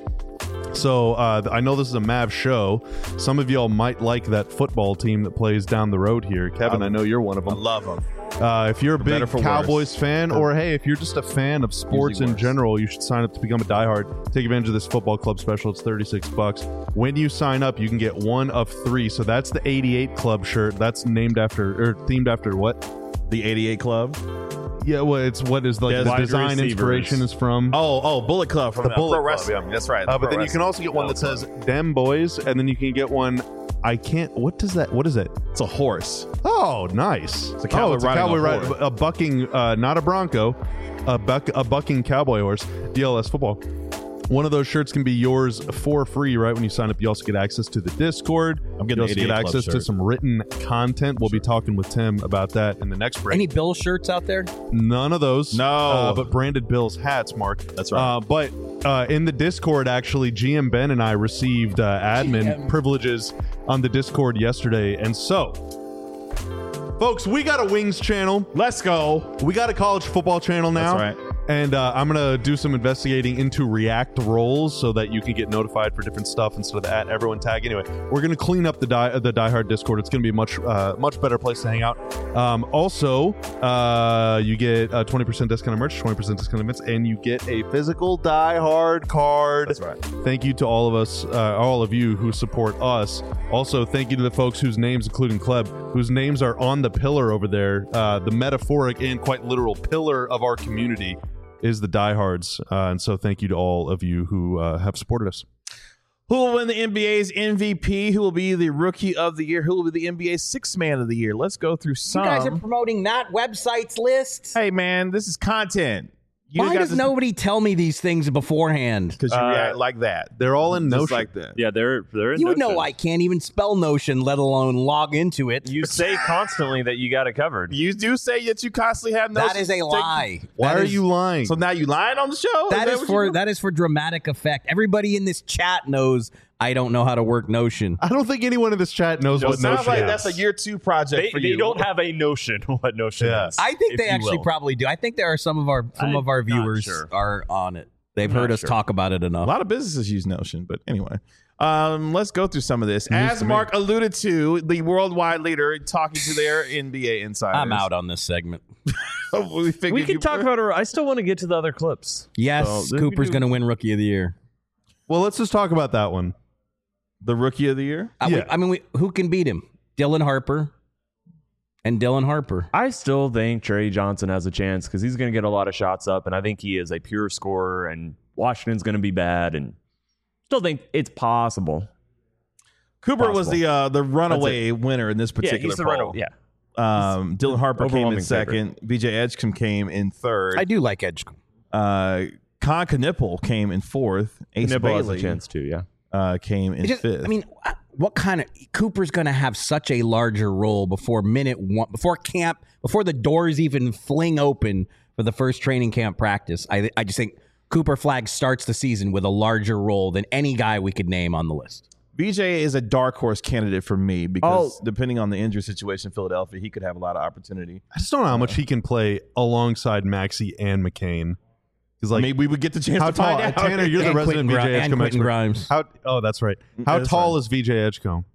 So I know this is a Mav show. Some of y'all might like that football team that plays down the road here. Kevin, I know you're one of I them. love him. If you're a better big for Cowboys worse. fan, or hey, if you're just a fan of sports Usually in worse. general, you should sign up to become a diehard. Take advantage of this football club special. It's $36. When you sign up, you can get one of 3. So that's the 88 Club shirt. That's named after or themed after what? The 88 Club. Yeah, well, it's what is like Yeah, the wide design receivers. inspiration is from. Oh, Bullet Club from The Bullet Pro Club, Wrestling. yeah. That's right. But then you can also get one that says "Dem Boys," and then you can get one. I can't. What does that? What is it? It's a horse. Oh, nice. It's a cowboy it's a riding cowboy a ride, horse. a bucking, not a bronco, a bucking cowboy horse. DLS football. One of those shirts can be yours for free, right? When you sign up, you also get access to the Discord. I'm getting you also the get 88 Club access to shirt. some written content. We'll be talking with Tim about that in the next break. Any Bill shirts out there? None of those. No. But branded Bills hats, Mark. That's right. But in the Discord, actually, GM Ben and I received admin privileges on the Discord yesterday. And so, folks, we got a Wings channel. Let's go. We got a college football channel now. That's right. And I'm going to do some investigating into React roles so that you can get notified for different stuff instead of the @everyone tag. Anyway, we're going to clean up the diehard Discord. It's going to be a much better place to hang out. Also, you get 20% discount on merch, 20% discount on events, and you get a physical diehard card. That's right. Thank you to all of us, all of you who support us. Also, thank you to the folks whose names, including Kleb, whose names are on the pillar over there. The metaphoric and quite literal pillar of our community is the diehards. And so thank you to all of you who have supported us. Who will win the NBA's MVP? Who will be the Rookie of the Year? Who will be the NBA's Sixth Man of the Year? Let's go through some. You guys are promoting that website's list. Hey, man, this is content. Why does nobody tell me these things beforehand? Because you react like that. They're all in Just Notion. like that. Yeah, they're in You know Notion. I can't even spell Notion, let alone log into it. You say constantly that you got it covered. You do say that you constantly have no. That is a lie. Why That are is- you lying? So now you lying on the show? That is what for you do? that is for dramatic effect. Everybody in this chat knows I don't know how to work Notion. I don't think anyone in this chat knows No, what Sounds Notion like is. that's a year 2 project They, for they you. don't have a notion what Notion Yeah. is. I think if they you actually will. probably do. I think there are some of our I'm not viewers sure. are on it. They've I'm heard not us sure. talk about it A enough. lot of businesses use Notion, but anyway. Let's go through some of this. As to me. Mark alluded to, the worldwide leader talking to their NBA insiders. I'm out on this segment. we figured We can you talk were. about it. I still want to get to the other clips. Yes, So, then Cooper's we do- going to win Rookie of the Year. Well, let's just talk about that one. the Rookie of the Year. Yeah. Who can beat him? Dylan Harper and Dylan Harper. I still think Trey Johnson has a chance because he's going to get a lot of shots up, and I think he is a pure scorer, and Washington's going to be bad, and still think it's possible. Cooper was the runaway winner in this particular Yeah, he's the poll. runner. Yeah. Dylan Harper came in Overwhelming second. BJ Edgecombe came in third. I do like Edgecombe. Con Knipple came in fourth. Ace Nibble has a Bailey chance too, yeah. came in It just- fifth. I mean, what kind of Cooper's going to have such a larger role before minute one, before camp, before the doors even fling open for the first training camp practice? I just think Cooper Flagg starts the season with a larger role than any guy we could name on the list. BJ is a dark horse candidate for me because depending on the injury situation in Philadelphia, he could have a lot of opportunity. I just don't know how much he can play alongside Maxey and McCain. Because like, Maybe we would get the chance how to find tall? out. Tanner, you're the And resident Quentin VJ Gri- and Edgecombe Quentin expert. Grimes. How? Oh, that's right. How That's tall right. is VJ Edgecombe?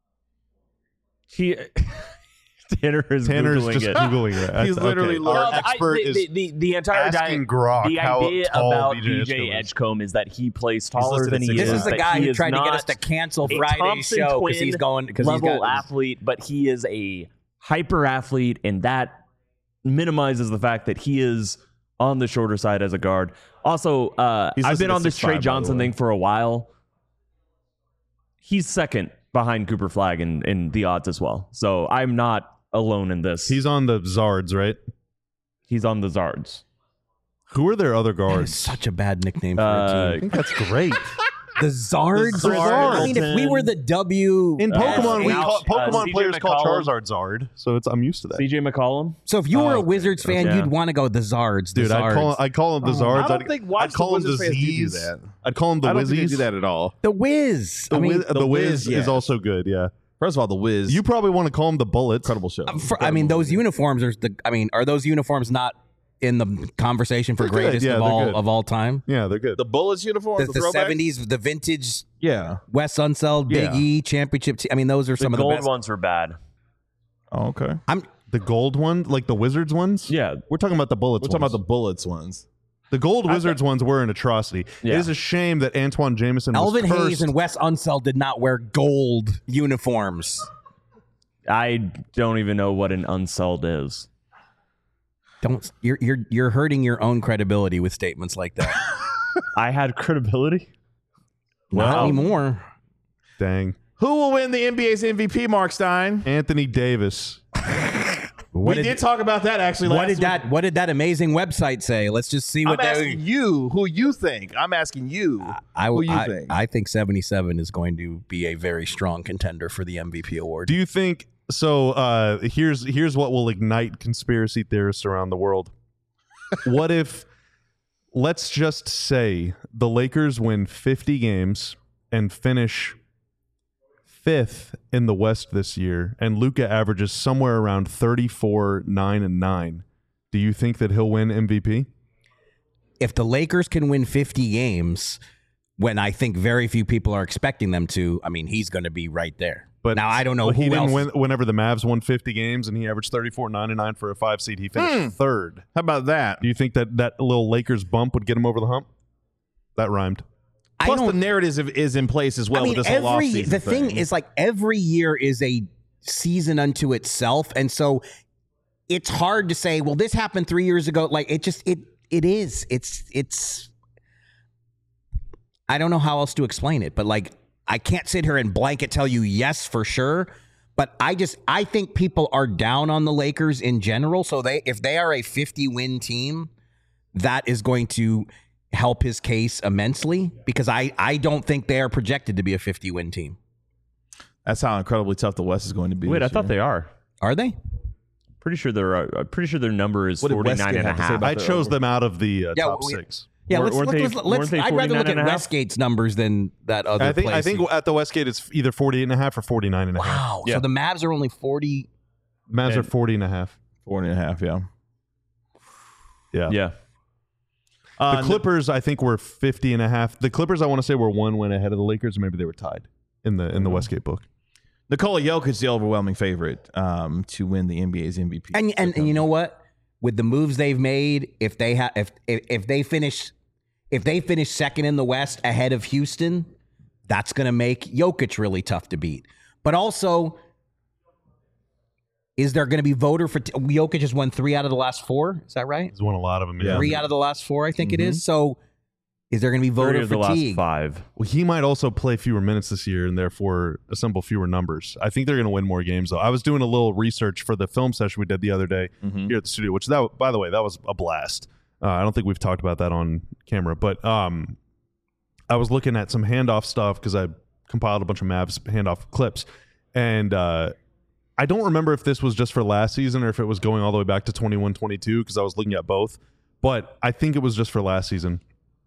He Tanner is Tanner's Googling just it. googling it. He's literally Our Well, expert is the entire asking Grok the how idea tall about VJ VJ Edgecombe is. Edgecombe is that he plays taller listed than at he 6'5". is. This is the that guy he who is tried to get us not to cancel a Friday's Thompson show twin because he's going because he's level got athlete, but he is a hyper athlete, and that minimizes the fact that he is on the shorter side as a guard. Also, He's I've listed been at on this 6'5", Trey by the Johnson way. thing for a while. He's second behind Cooper Flagg in the odds as well. So I'm not alone in this. He's on the Zards, right? He's on the Zards. Who are their other That is guards? such a bad nickname for a I team. think that's great. The Zards. The Zards. I mean, if we were the W, In Pokemon, we now, call, Pokemon CJ players call McCollum. Charizard Zard, so I'm used to that. CJ McCollum. so if you were a okay. Wizards fan, Yeah. you'd want to go the Zards. The Dude, Zards. I'd call him the Zards. I don't think I'd call him the Wizards fans do Z's. that. I'd call him the I don't think they Wizzies. do that at all. the Wiz. The, I mean, the Wiz yeah. is also good, yeah. First of all, the Wiz. You probably want to call him the Bullets. incredible show. those uniforms are those uniforms not in the conversation for They're good. greatest Yeah, of they're all good. of all time? Yeah, they're good. The Bullets uniform, The, the, the throwback? 70s, the vintage Yeah. Wes Unseld, Big Yeah. E championship. I mean, those are The some of the gold best. ones were bad. Oh, okay. The gold one, like the Wizards ones? Yeah. We're talking about the Bullets We're talking ones. about the Bullets ones. The gold Wizards ones were an atrocity. Yeah. It is a shame that Antoine Jameson Elvin was cursed. Hayes and Wes Unseld did not wear gold uniforms. I don't even know what an unsold is. You're hurting your own credibility with statements like that. I had credibility. Not Wow. anymore. Dang. Who will win the NBA's MVP, Mark Stein? Anthony Davis. What We did talk about that actually what last did week. that what did that amazing website say? Let's just see I'm what asking you who you think. I'm asking you who you think. I think 77 is going to be a very strong contender for the MVP award. Do you think so? Here's what will ignite conspiracy theorists around the world. What if, let's just say, the Lakers win 50 games and finish 5th in the West this year, and Luka averages somewhere around 34, 9, and 9. Do you think that he'll win MVP? If the Lakers can win 50 games, when I think very few people are expecting them to, I mean, he's going to be right there. But now I don't know he who didn't else. win whenever the Mavs won 50 games and he averaged 34, 9, and 9 for a 5 seed. He finished third. How about that? Do you think that that little Lakers bump would get him over the hump? That rhymed. I Plus, don't- the narrative is in place as well I mean, with this whole offseason the thing is like every year is a season unto itself, and so it's hard to say, well, this happened 3 years ago. Like it is. It's. I don't know how else to explain it, but like I can't sit here and blanket tell you yes for sure, but I think people are down on the Lakers in general. So if they are a 50-win team, that is going to help his case immensely, because I don't think they are projected to be a 50-win team. That's how incredibly tough the West is going to be. Wait, this I thought year. they are. Are they? Pretty sure their number is What did 49 Westgate and a have to say half. about I chose them out of the top 6. Yeah, Weren't let's they I'd rather look 49 and a at half? Westgate's numbers than that other I think place. at the Westgate it's either 48.5 or 49.5. Wow. Yeah. So the Mavs are only 40. Mavs are 40.5. 40.5, yeah. Yeah. Yeah. The Clippers, I think, were 50.5. The Clippers, I want to say, were 1 win ahead of the Lakers, or maybe they were tied in the Westgate book. Nikola Jokic, the overwhelming favorite to win the NBA's MVP. And you know what? With the moves they've made, if they finish second in the West ahead of Houston, that's going to make Jokic really tough to beat. But also, is there going to be voter for Jokic has won 3 out of the last 4? Is that right? He's won a lot of them. Yeah. 3 out of the last 4, I think it is. So, is there going to be 3 voter of the last fatigue? 5. Well, he might also play fewer minutes this year and therefore assemble fewer numbers. I think they're going to win more games, though. I was doing a little research for the film session we did the other day here at the studio, which, by the way, that was a blast. I don't think we've talked about that on camera, but I was looking at some handoff stuff because I compiled a bunch of Mavs handoff clips, and I don't remember if this was just for last season or if it was going all the way back to 21-22 because I was looking at both, but I think it was just for last season.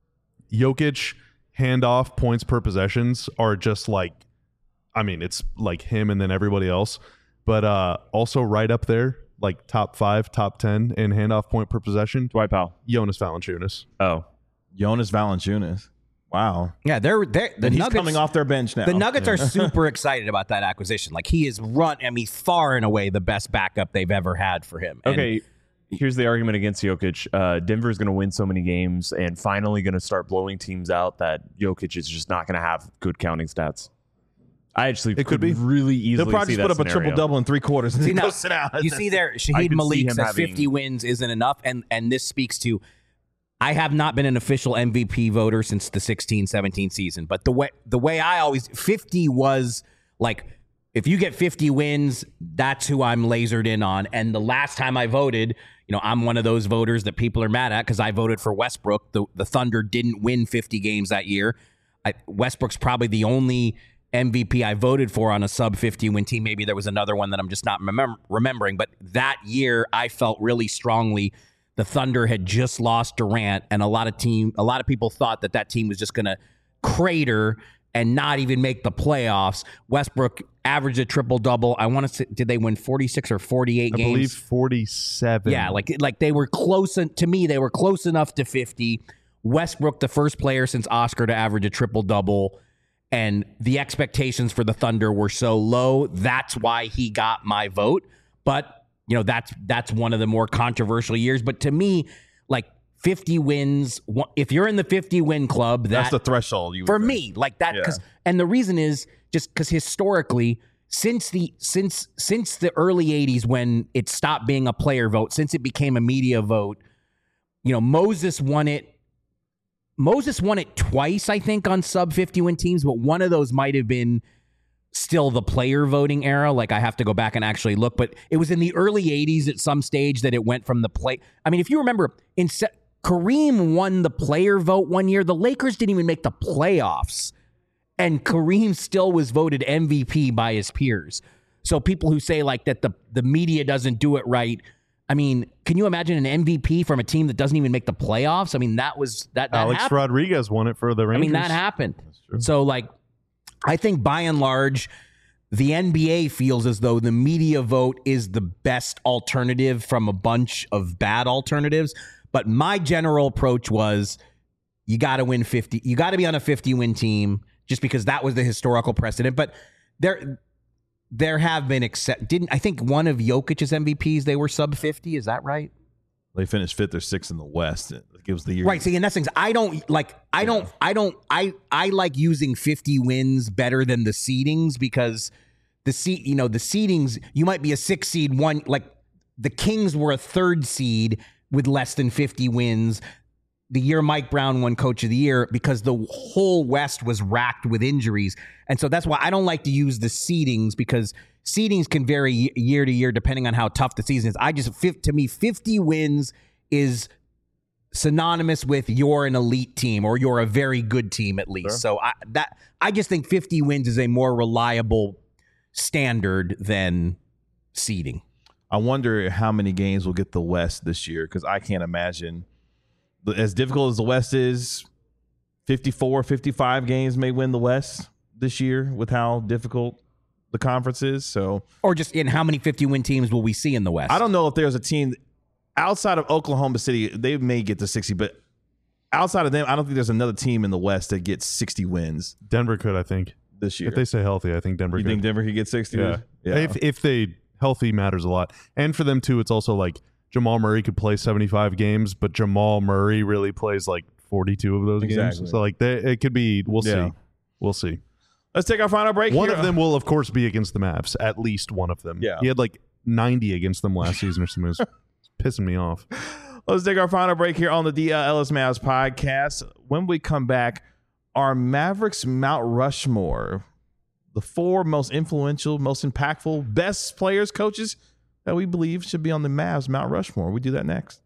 Jokic handoff points per possessions are just like, I mean, it's like him and then everybody else, but also right up there, like top 5, top 10 in handoff point per possession. Dwight Powell. Jonas Valanciunas. Oh. Jonas Valanciunas. Wow. Yeah, the And he's Nuggets coming off their bench now. The Nuggets are super excited about that acquisition. Like, he is far and away the best backup they've ever had for him. And Okay. Here's the argument against Jokic. Denver's going to win so many games and finally going to start blowing teams out that Jokic is just not going to have good counting stats. I actually could be. really easily He'll probably see just that put up a scenario. triple-double in 3 quarters and See, then now, go sit out. you see there, I Shaheed could see Malik him says having- 50 wins isn't enough, and this speaks to, I have not been an official MVP voter since the 16-17 season, but the way I always, 50 was like, if you get 50 wins, that's who I'm lasered in on. And the last time I voted, I'm one of those voters that people are mad at because I voted for Westbrook. The Thunder didn't win 50 games that year. Westbrook's probably the only MVP I voted for on a sub 50 win team. Maybe there was another one that I'm just not remembering. But that year, I felt really strongly the Thunder had just lost Durant, and a lot of people thought that team was just going to crater and not even make the playoffs. Westbrook averaged a triple-double. I want to say, did they win 46 or 48 games? I believe 47. Yeah, like they were close. To me, they were close enough to 50. Westbrook, the first player since Oscar to average a triple-double, and the expectations for the Thunder were so low. That's why he got my vote. But, that's one of the more controversial years. But to me, like, 50 wins, if you're in the 50-win club, That's the threshold. for me, like that. Yeah. And the reason is just because historically, since the early 80s, when it stopped being a player vote, since it became a media vote, Moses won it twice, I think, on sub 50-win teams, but one of those might have been still the player voting era. Like, I have to go back and actually look, but it was in the early 80s at some stage that it went from the play. I mean, if you remember, Kareem won the player vote one year. The Lakers didn't even make the playoffs, and Kareem still was voted MVP by his peers. So people who say like that the media doesn't do it right, I mean, can you imagine an MVP from a team that doesn't even make the playoffs? I mean, that Alex happened. Rodriguez won it for the Rangers. I mean, that happened. So, like, I think by and large, the NBA feels as though the media vote is the best alternative from a bunch of bad alternatives. But my general approach was, you got to win 50. You got to be on a 50-win team just because that was the historical precedent. But there have been I think one of Jokic's MVPs, they were sub 50. Is that right? They finished 5th or 6th in the West. It gives the year. Right. See, and that's things I like using 50 wins better than the seedings, because the seedings, you might be a 6 seed, one, like the Kings were a 3rd seed with less than 50 wins. the year Mike Brown won Coach of the Year because the whole West was racked with injuries. And so that's why I don't like to use the seedings, because seedings can vary year to year depending on how tough the season is. To me, 50 wins is synonymous with you're an elite team or you're a very good team at least. Sure. So I just think 50 wins is a more reliable standard than seeding. I wonder how many games will get the West this year, because I can't imagine, as difficult as the West is, 54, 55 games may win the West this year with how difficult the conference is. So, or just in how many 50-win teams will we see in the West? I don't know if there's a team outside of Oklahoma City. They may get to 60, but outside of them, I don't think there's another team in the West that gets 60 wins. Denver could, I think, this year. If they stay healthy, I think Denver You could. think Denver could get 60? Yeah. If they healthy matters a lot. And for them too, it's also like Jamal Murray could play 75 games, but Jamal Murray really plays like 42 of those games. So like it could be, we'll see. Let's take our final break. One of them will of course be against the Mavs, at least one of them. Yeah. He had like 90 against them last season or something. It was pissing me off. Let's take our final break here on the DLS Mavs podcast. When we come back, our Mavericks Mount Rushmore, the 4 most influential, most impactful, best players, coaches that we believe should be on the Mavs Mount Rushmore. We do that next.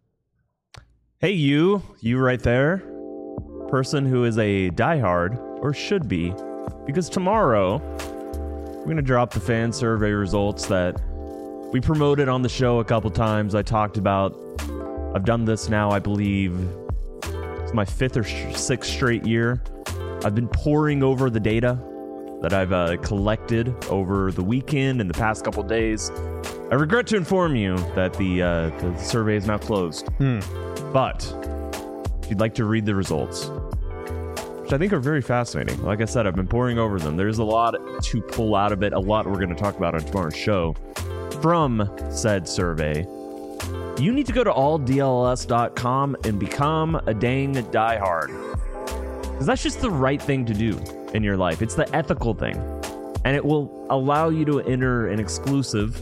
Hey, you right there, person who is a diehard, or should be, because tomorrow we're going to drop the fan survey results that we promoted on the show a couple times. I talked about, I've done this now, I believe, it's my 5th or 6th straight year. I've been poring over the data that I've collected over the weekend and the past couple days. I regret to inform you that the survey is now closed. But if you'd like to read the results, which I think are very fascinating. Like I said, I've been poring over them. There's a lot to pull out of it, a lot we're going to talk about on tomorrow's show from said survey. You need to go to alldls.com and become a dang diehard. Because that's just the right thing to do in your life. It's the ethical thing. And it will allow you to enter an exclusive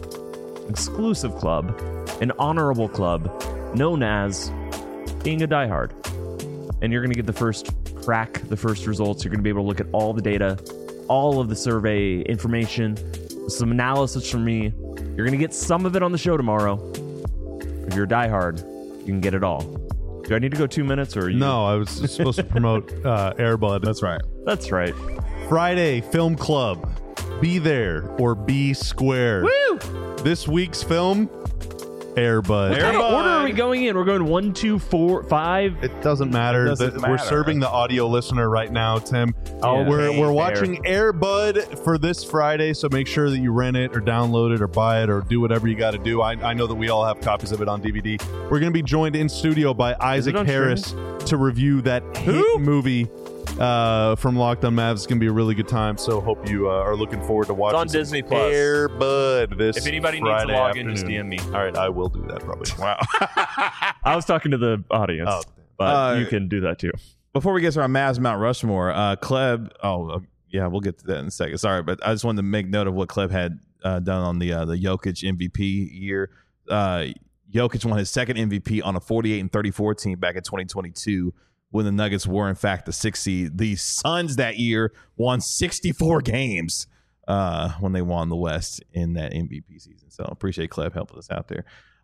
club, an honorable club known as being a diehard. And you're going to get the first results. You're going to be able to look at all the data, all of the survey information, some analysis from me. You're going to get some of it on the show tomorrow. If you're a diehard, you can get it all. Do I need to go 2 minutes or you? No, I was supposed to promote Airbud. That's right. That's right. Friday Film Club. Be there or be square. Woo! This week's film, Airbud. What kind of order are we going in? We're going 1, 2, 4, 5. It doesn't matter. We're serving the audio listener right now, Tim. We're watching Airbud for this Friday, so make sure that you rent it or download it or buy it or do whatever you got to do. I know that we all have copies of it on DVD. We're going to be joined in studio by Isaac Harris to review that hit movie from Locked On Mavs. It's going to be a really good time, so hope you are looking forward to watching It's on Disney Plus. Airbud this If anybody Friday needs to log afternoon. in, just DM me. All right, I will do that probably. Wow. I was talking to the audience, but you can do that too. Before we get to our Mavs Mount Rushmore, Kleb. We'll get to that in a second. Sorry, but I just wanted to make note of what Kleb had done on the Jokic MVP year. Jokic won his second MVP on a 48-34 team back in 2022 when the Nuggets were in fact the 6th seed. The Suns that year won 64 games when they won the West in that MVP season. So appreciate Kleb helping us out there.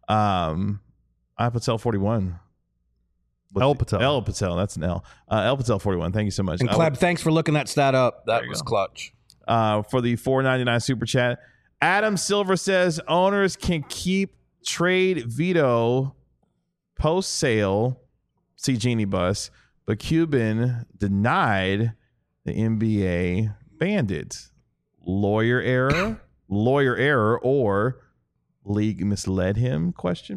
I Patel 41. El Patel. El Patel, that's an L. El Patel 41. Thank you so much. And Kleb, thanks for looking that stat up. That was clutch. For the $4.99 super chat, Adam Silver says owners can keep trade veto post sale. See Genie Bus, but Cuban denied the NBA banned it. Lawyer error, or league misled him? ?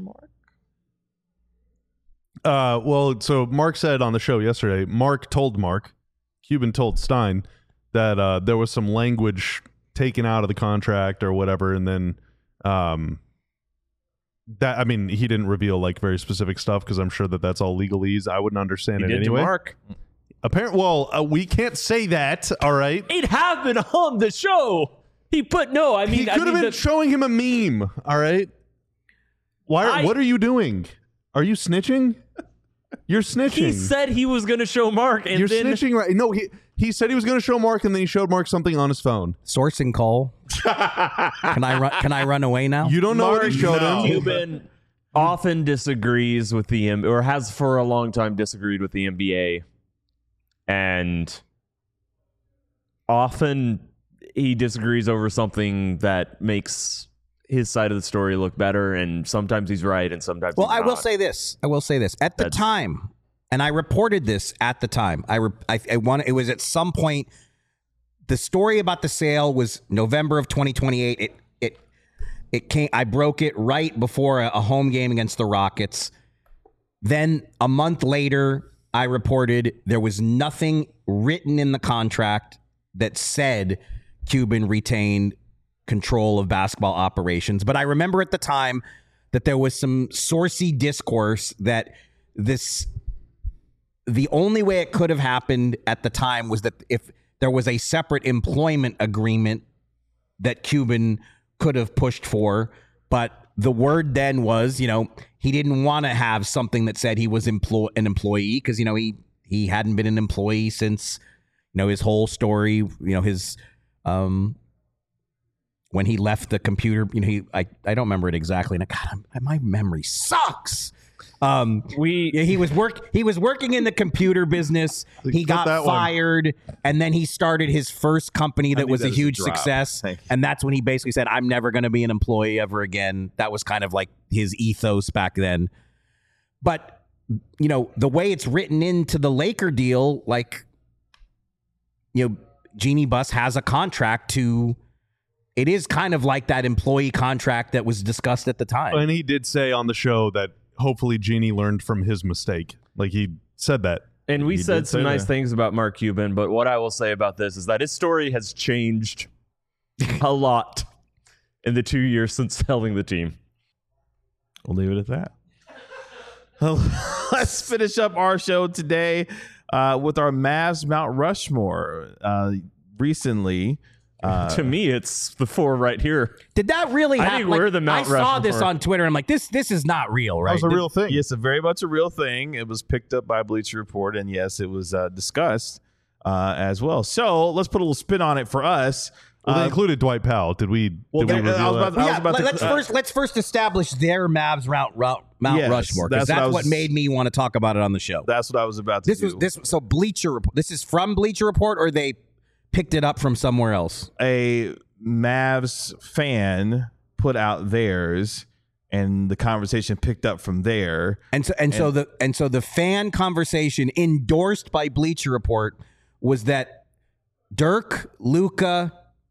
Well, so Mark said on the show yesterday, Cuban told Stein that there was some language taken out of the contract or whatever, and then he didn't reveal like very specific stuff because I'm sure that that's all legalese. I wouldn't understand it anyway. Mark. Apparently, we can't say that. All right, It happened on the show. He put he could have been showing him a meme. All right, what are you doing? Are you snitching? You're snitching. He said he was going to show Mark, and You're then snitching, right? No, he said he was going to show Mark, and then he showed Mark something on his phone. Sourcing Cole. Can I run away now? You don't know what he showed him. Cuban often disagrees with the or has for a long time disagreed with the NBA, and often he disagrees over something that makes his side of the story look better, and sometimes he's right, and sometimes Well, he's I will not. say this. At the time, and I reported this at the time. It was at some point. The story about the sale was November of 2028. It came. I broke it right before a home game against the Rockets. Then a month later, I reported there was nothing written in the contract that said Cuban retained control of basketball operations. But I remember at the time that there was some saucy discourse that the only way it could have happened at the time was that if there was a separate employment agreement that Cuban could have pushed for. But the word then was, he didn't want to have something that said he was an employee because, he hadn't been an employee since, his whole story, his when he left the computer, I don't remember it exactly. And God, my memory sucks. He was working in the computer business. He got fired, and then he started his first company that was a huge success. And that's when he basically said, "I'm never going to be an employee ever again." That was kind of like his ethos back then. But the way it's written into the Laker deal, Jeannie Buss has a contract to. It is kind of like that employee contract that was discussed at the time. And he did say on the show that hopefully Jeannie learned from his mistake. He said that. And we said some nice things about Mark Cuban, but what I will say about this is that his story has changed a lot in the 2 years since selling the team. We'll leave it at that. Let's finish up our show today with our Mavs Mount Rushmore. Recently, to me, it's the four right here. Did that really happen? I think we're the Mount I saw Rushmore. this on Twitter. And I'm like, this is not real, right? That was a real thing. Yes, very much a real thing. It was picked up by Bleacher Report, and yes, it was discussed as well. So let's put a little spin on it for us. Well, they included Dwight Powell. Did we reveal that? Let's first establish their Mavs Mount Rushmore, because that's what made me want to talk about it on the show. That's what I was about to do. So Bleacher Report. This is from Bleacher Report, or they picked it up from somewhere else? A Mavs fan put out theirs, and the conversation picked up from there. So the fan conversation endorsed by Bleacher Report was that Dirk, Luka,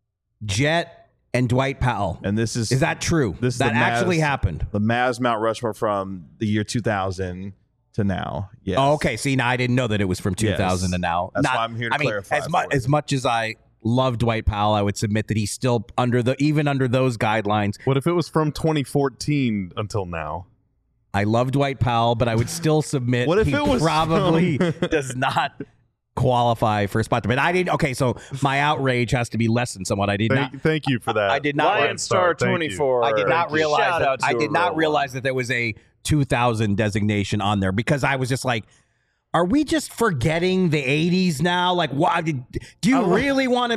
Jet, and Dwight Powell. And is that true? This that actually happened. The Mavs Mount Rushmore from the year 2000 to now. Yes. Oh, okay. See, now I didn't know that it was from 2000 to now. That's why I'm here to clarify. As much as I love Dwight Powell, I would submit that he's still even under those guidelines. What if it was from 2014 until now? I love Dwight Powell, but I would still submit what if he it was probably does not qualify for a spot. But I didn't. Okay, so my outrage has to be lessened somewhat. I did not. Thank you for that. I did not. Lion Star 24. I did not realize. I did not realize that there was a 2000 designation on there, because I was just like, are we just forgetting the 80s now? Like, why do you really want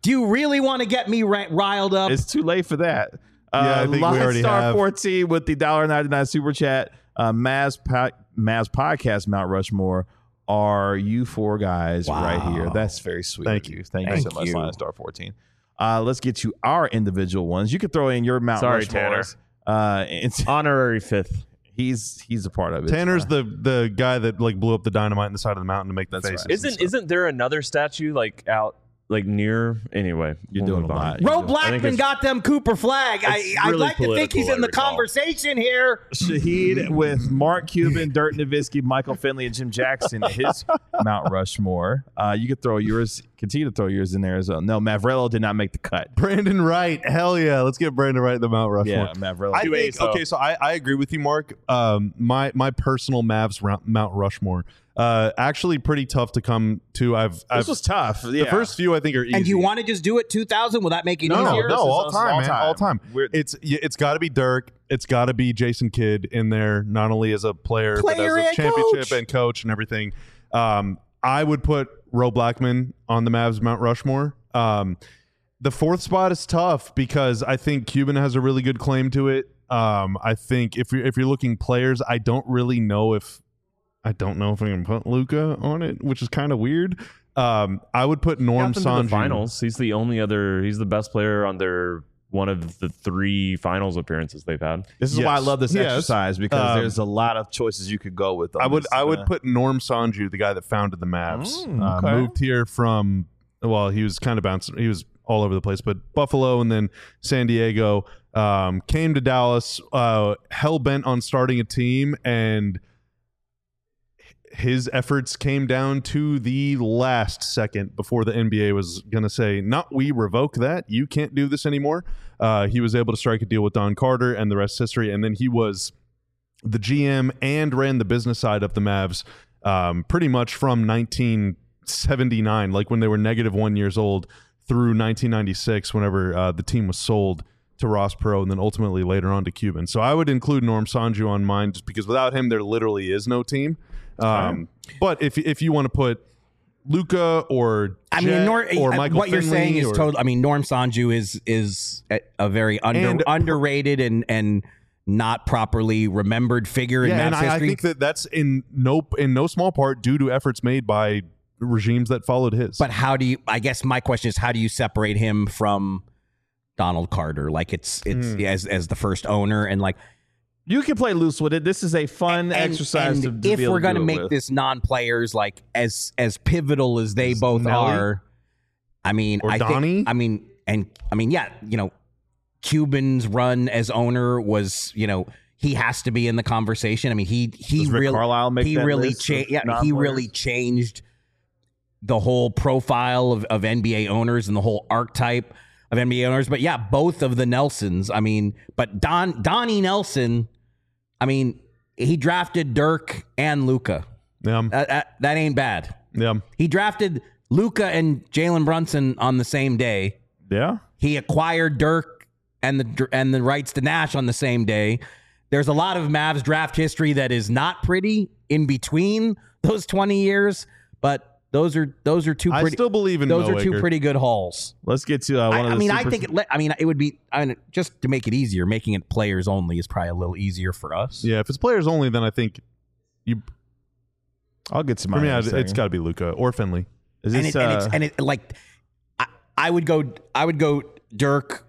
to get me riled up? It's too late for that. I think we already Star have. 14 with the $1.99 super chat. Mavs podcast Mount Rushmore are you four guys right here. That's very sweet. Thank of you. Thank you so much, Lion Star 14. Let's get to our individual ones. You can throw in your Mount Rushmores. It's honorary fifth. He's a part of it. Tanner's the guy that blew up the dynamite in the side of the mountain to make the faces. Right. Isn't there another statue out near? Anyway, you're doing a lot. Ro Blackman got them Cooper flag. I'd like to think he's in the conversation here. Shahid with Mark Cuban, Dirk Nowitzki, Michael Finley, and Jim Jackson. His Mount Rushmore. You could throw yours. Continue to throw yours in there as well. No, Mavrello did not make the cut. Brandon Wright. Hell yeah. Let's get Brandon Wright in the Mount Rushmore. Yeah, Mavrello. I think, okay, so I agree with you, Mark. My personal Mavs Mount Rushmore. Actually, pretty tough to come to. This was tough. The first few I think are easy. And do you want to just do it 2,000? Will that make it easier? No, all time, all man, time. all time. It's got to be Dirk. It's got to be Jason Kidd in there, not only as a player but as a and championship coach. and coach and everything. I would put Ro Blackman on the Mavs Mount Rushmore. The fourth spot is tough because I think Cuban has a really good claim to it. I think if you're looking players, I don't know if I can put Luka on it, which is kind of weird. I would put Norm Sanju. The finals. He's the only other. He's the best player on their one of the 3 finals appearances they've had. This is why I love this Yes. exercise because there's a lot of choices you could go with. I would put Norm Sanju, the guy that founded the Mavs. Okay. Moved here from, well, he was kind of bouncing. He was all over the place, but Buffalo and then San Diego. Came to Dallas, hell bent on starting a team, and his efforts came down to the last second before the NBA was going to say, "Not we revoke that. You can't do this anymore." He was able to strike a deal with Don Carter, and the rest is history. And then he was the GM and ran the business side of the Mavs pretty much from 1979, like when they were -1 years old, through 1996, whenever the team was sold to Ross Perot, and then ultimately later on to Cuban. So I would include Norm Sanju on mine, just because without him, there literally is no team. But if you want to put Luka or or Michael what you're Finley saying is or, total. I mean, Norm Sanju is a very underrated and not properly remembered figure in Mavs and I history. think that's in no small part due to efforts made by regimes that followed his. But how do you? I guess my question is, how do you separate him from Donald Carter? Like it's as the first owner, and like you can play loose with it. This is a fun exercise. And to if be able we're going to make this non-players like as pivotal as they both Nelly? are, I mean, Or I Donnie? think, yeah, Cuban's run as owner was, he has to be in the conversation. I mean, he Does Rick really Carlisle make he that really list of changed. Yeah, he non-players? really changed the whole profile of NBA owners and the whole archetype of NBA owners. But yeah, both of the Nelsons. I mean, but Donnie Nelson. I mean, he drafted Dirk and Luka. yeah, That ain't bad. yeah. He drafted Luka and Jalen Brunson on the same day. Yeah. He acquired Dirk and the rights to Nash on the same day. There's a lot of Mavs draft history that is not pretty in between those 20 years, but those are two I pretty. still believe in those Mo are two Aker. pretty good hauls. Let's get to one of the I think it would be. Just to make it easier, making it players only is probably a little easier for us. Yeah, if it's players only, then I think you. I'll get to For mine. me, in a it's second. got to be Luka or Finley. Is And this, it like I would go Dirk,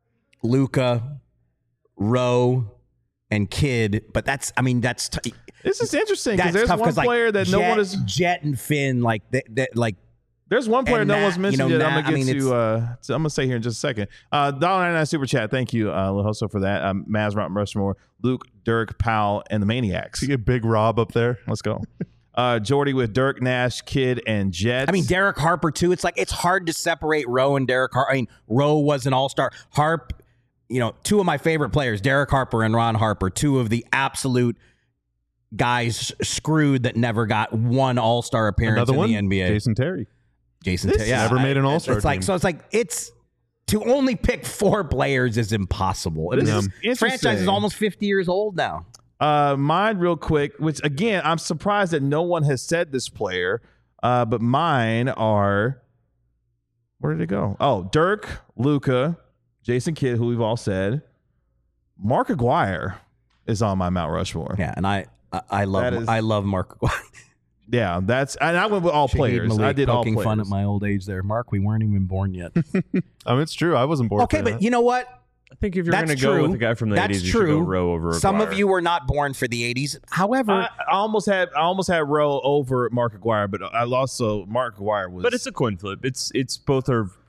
Luka, Rowe, and Kidd, but that's this is interesting because that's there's tough one like, player that no one is. Jet and Finn like like There's one player and no Nat, one's mentioned you know, yet. I'm Nat, gonna I get mean, to. I'm gonna say here in just a second. $1.99 super chat. Thank you, Lahoso, for that. Mavs, Mount Rushmore, Luke, Dirk, Powell, and the Maniacs. You get Big Rob up there. Let's go. Jordy with Dirk, Nash, Kidd, and Jets. I mean, Derek Harper too. It's like it's hard to separate Rowe and Derek Harper. I mean, Rowe was an all-star. Harp, two of my favorite players, Derek Harper and Ron Harper, two of the absolute guys screwed that never got one all-star appearance Another one, in the NBA. Jason Terry. Jason, This yeah, never made an all-star It's like team. it's to only pick 4 players is impossible. This This is interesting. franchise is almost 50 years old now. Mine real quick, which again, I'm surprised that no one has said this player, but mine are, where did it go? Oh, Dirk, Luka, Jason Kidd, who we've all said. Mark Aguirre is on my Mount Rushmore. Yeah, and I love Mark Aguirre. Yeah, that's, and I went with all players. Malik I did all poking players. fun at my old age there. Mark, we weren't even born yet. It's true. I wasn't born. Okay, for but that. you know what? I think if you're That's going to go true. with the guy from the That's 80s, you true. should go Rowe over Some of Aguirre. you were not born for the 80s. However, I almost had Rowe over Mark Aguirre, but I lost. So Mark Aguirre was. But it's a coin flip. It's both are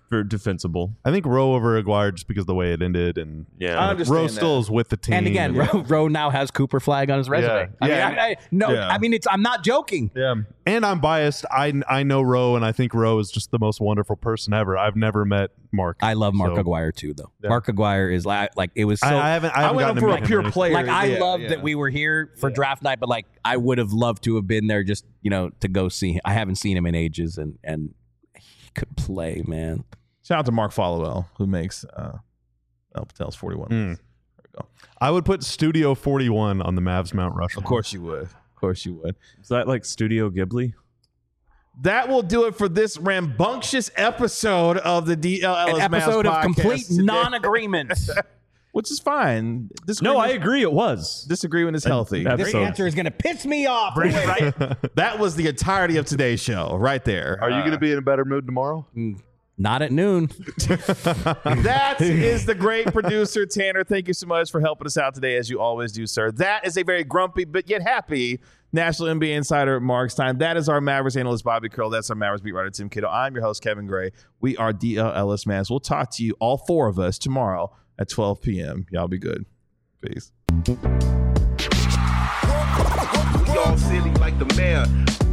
Very defensible. I think Rowe over Aguirre just because of the way it ended, and Yeah. I understand Rowe that. still is with the team. And again, Rowe now has Cooper Flag on his resume. Yeah. I mean, I'm not joking. yeah, and I'm biased. I know Rowe, and I think Rowe is just the most wonderful person ever. I've never met Mark. I love Mark So- Aguirre too, though. Yeah. Mark Aguirre is like it was so. I haven't. I I haven't went gotten up to for meet a pure him. player. like I Yeah, love yeah. that we were here for draft night, but like I would have loved to have been there just to go see him. I haven't seen him in ages, and he could play, man. Shout out to Mark Followell, who makes El Patel's 41. There we go. I would put Studio 41 on the Mavs Mount Rushmore. Of course you would. Of course you would. Is that like Studio Ghibli? That will do it for this rambunctious episode of the DLLS An episode Mavs of complete podcast today, non-agreement. which is fine. No, Disagreement- I agree. It was. Disagreement is healthy. That- This episode. answer is going to piss me off. That was the entirety of today's show, right there. Are you going to be in a better mood tomorrow? Not at noon. That is the great producer, Tanner. Thank you so much for helping us out today, as you always do, sir. That is a very grumpy but yet happy National NBA insider, Mark Stein. That is our Mavericks analyst, Bobby Curl. That's our Mavericks beat writer, Tim Kittle. I'm your host, Kevin Gray. We are DLLS Mavs. We'll talk to you, all four of us, tomorrow at 12 p.m. Y'all be good. Peace. We all silly like the mayor.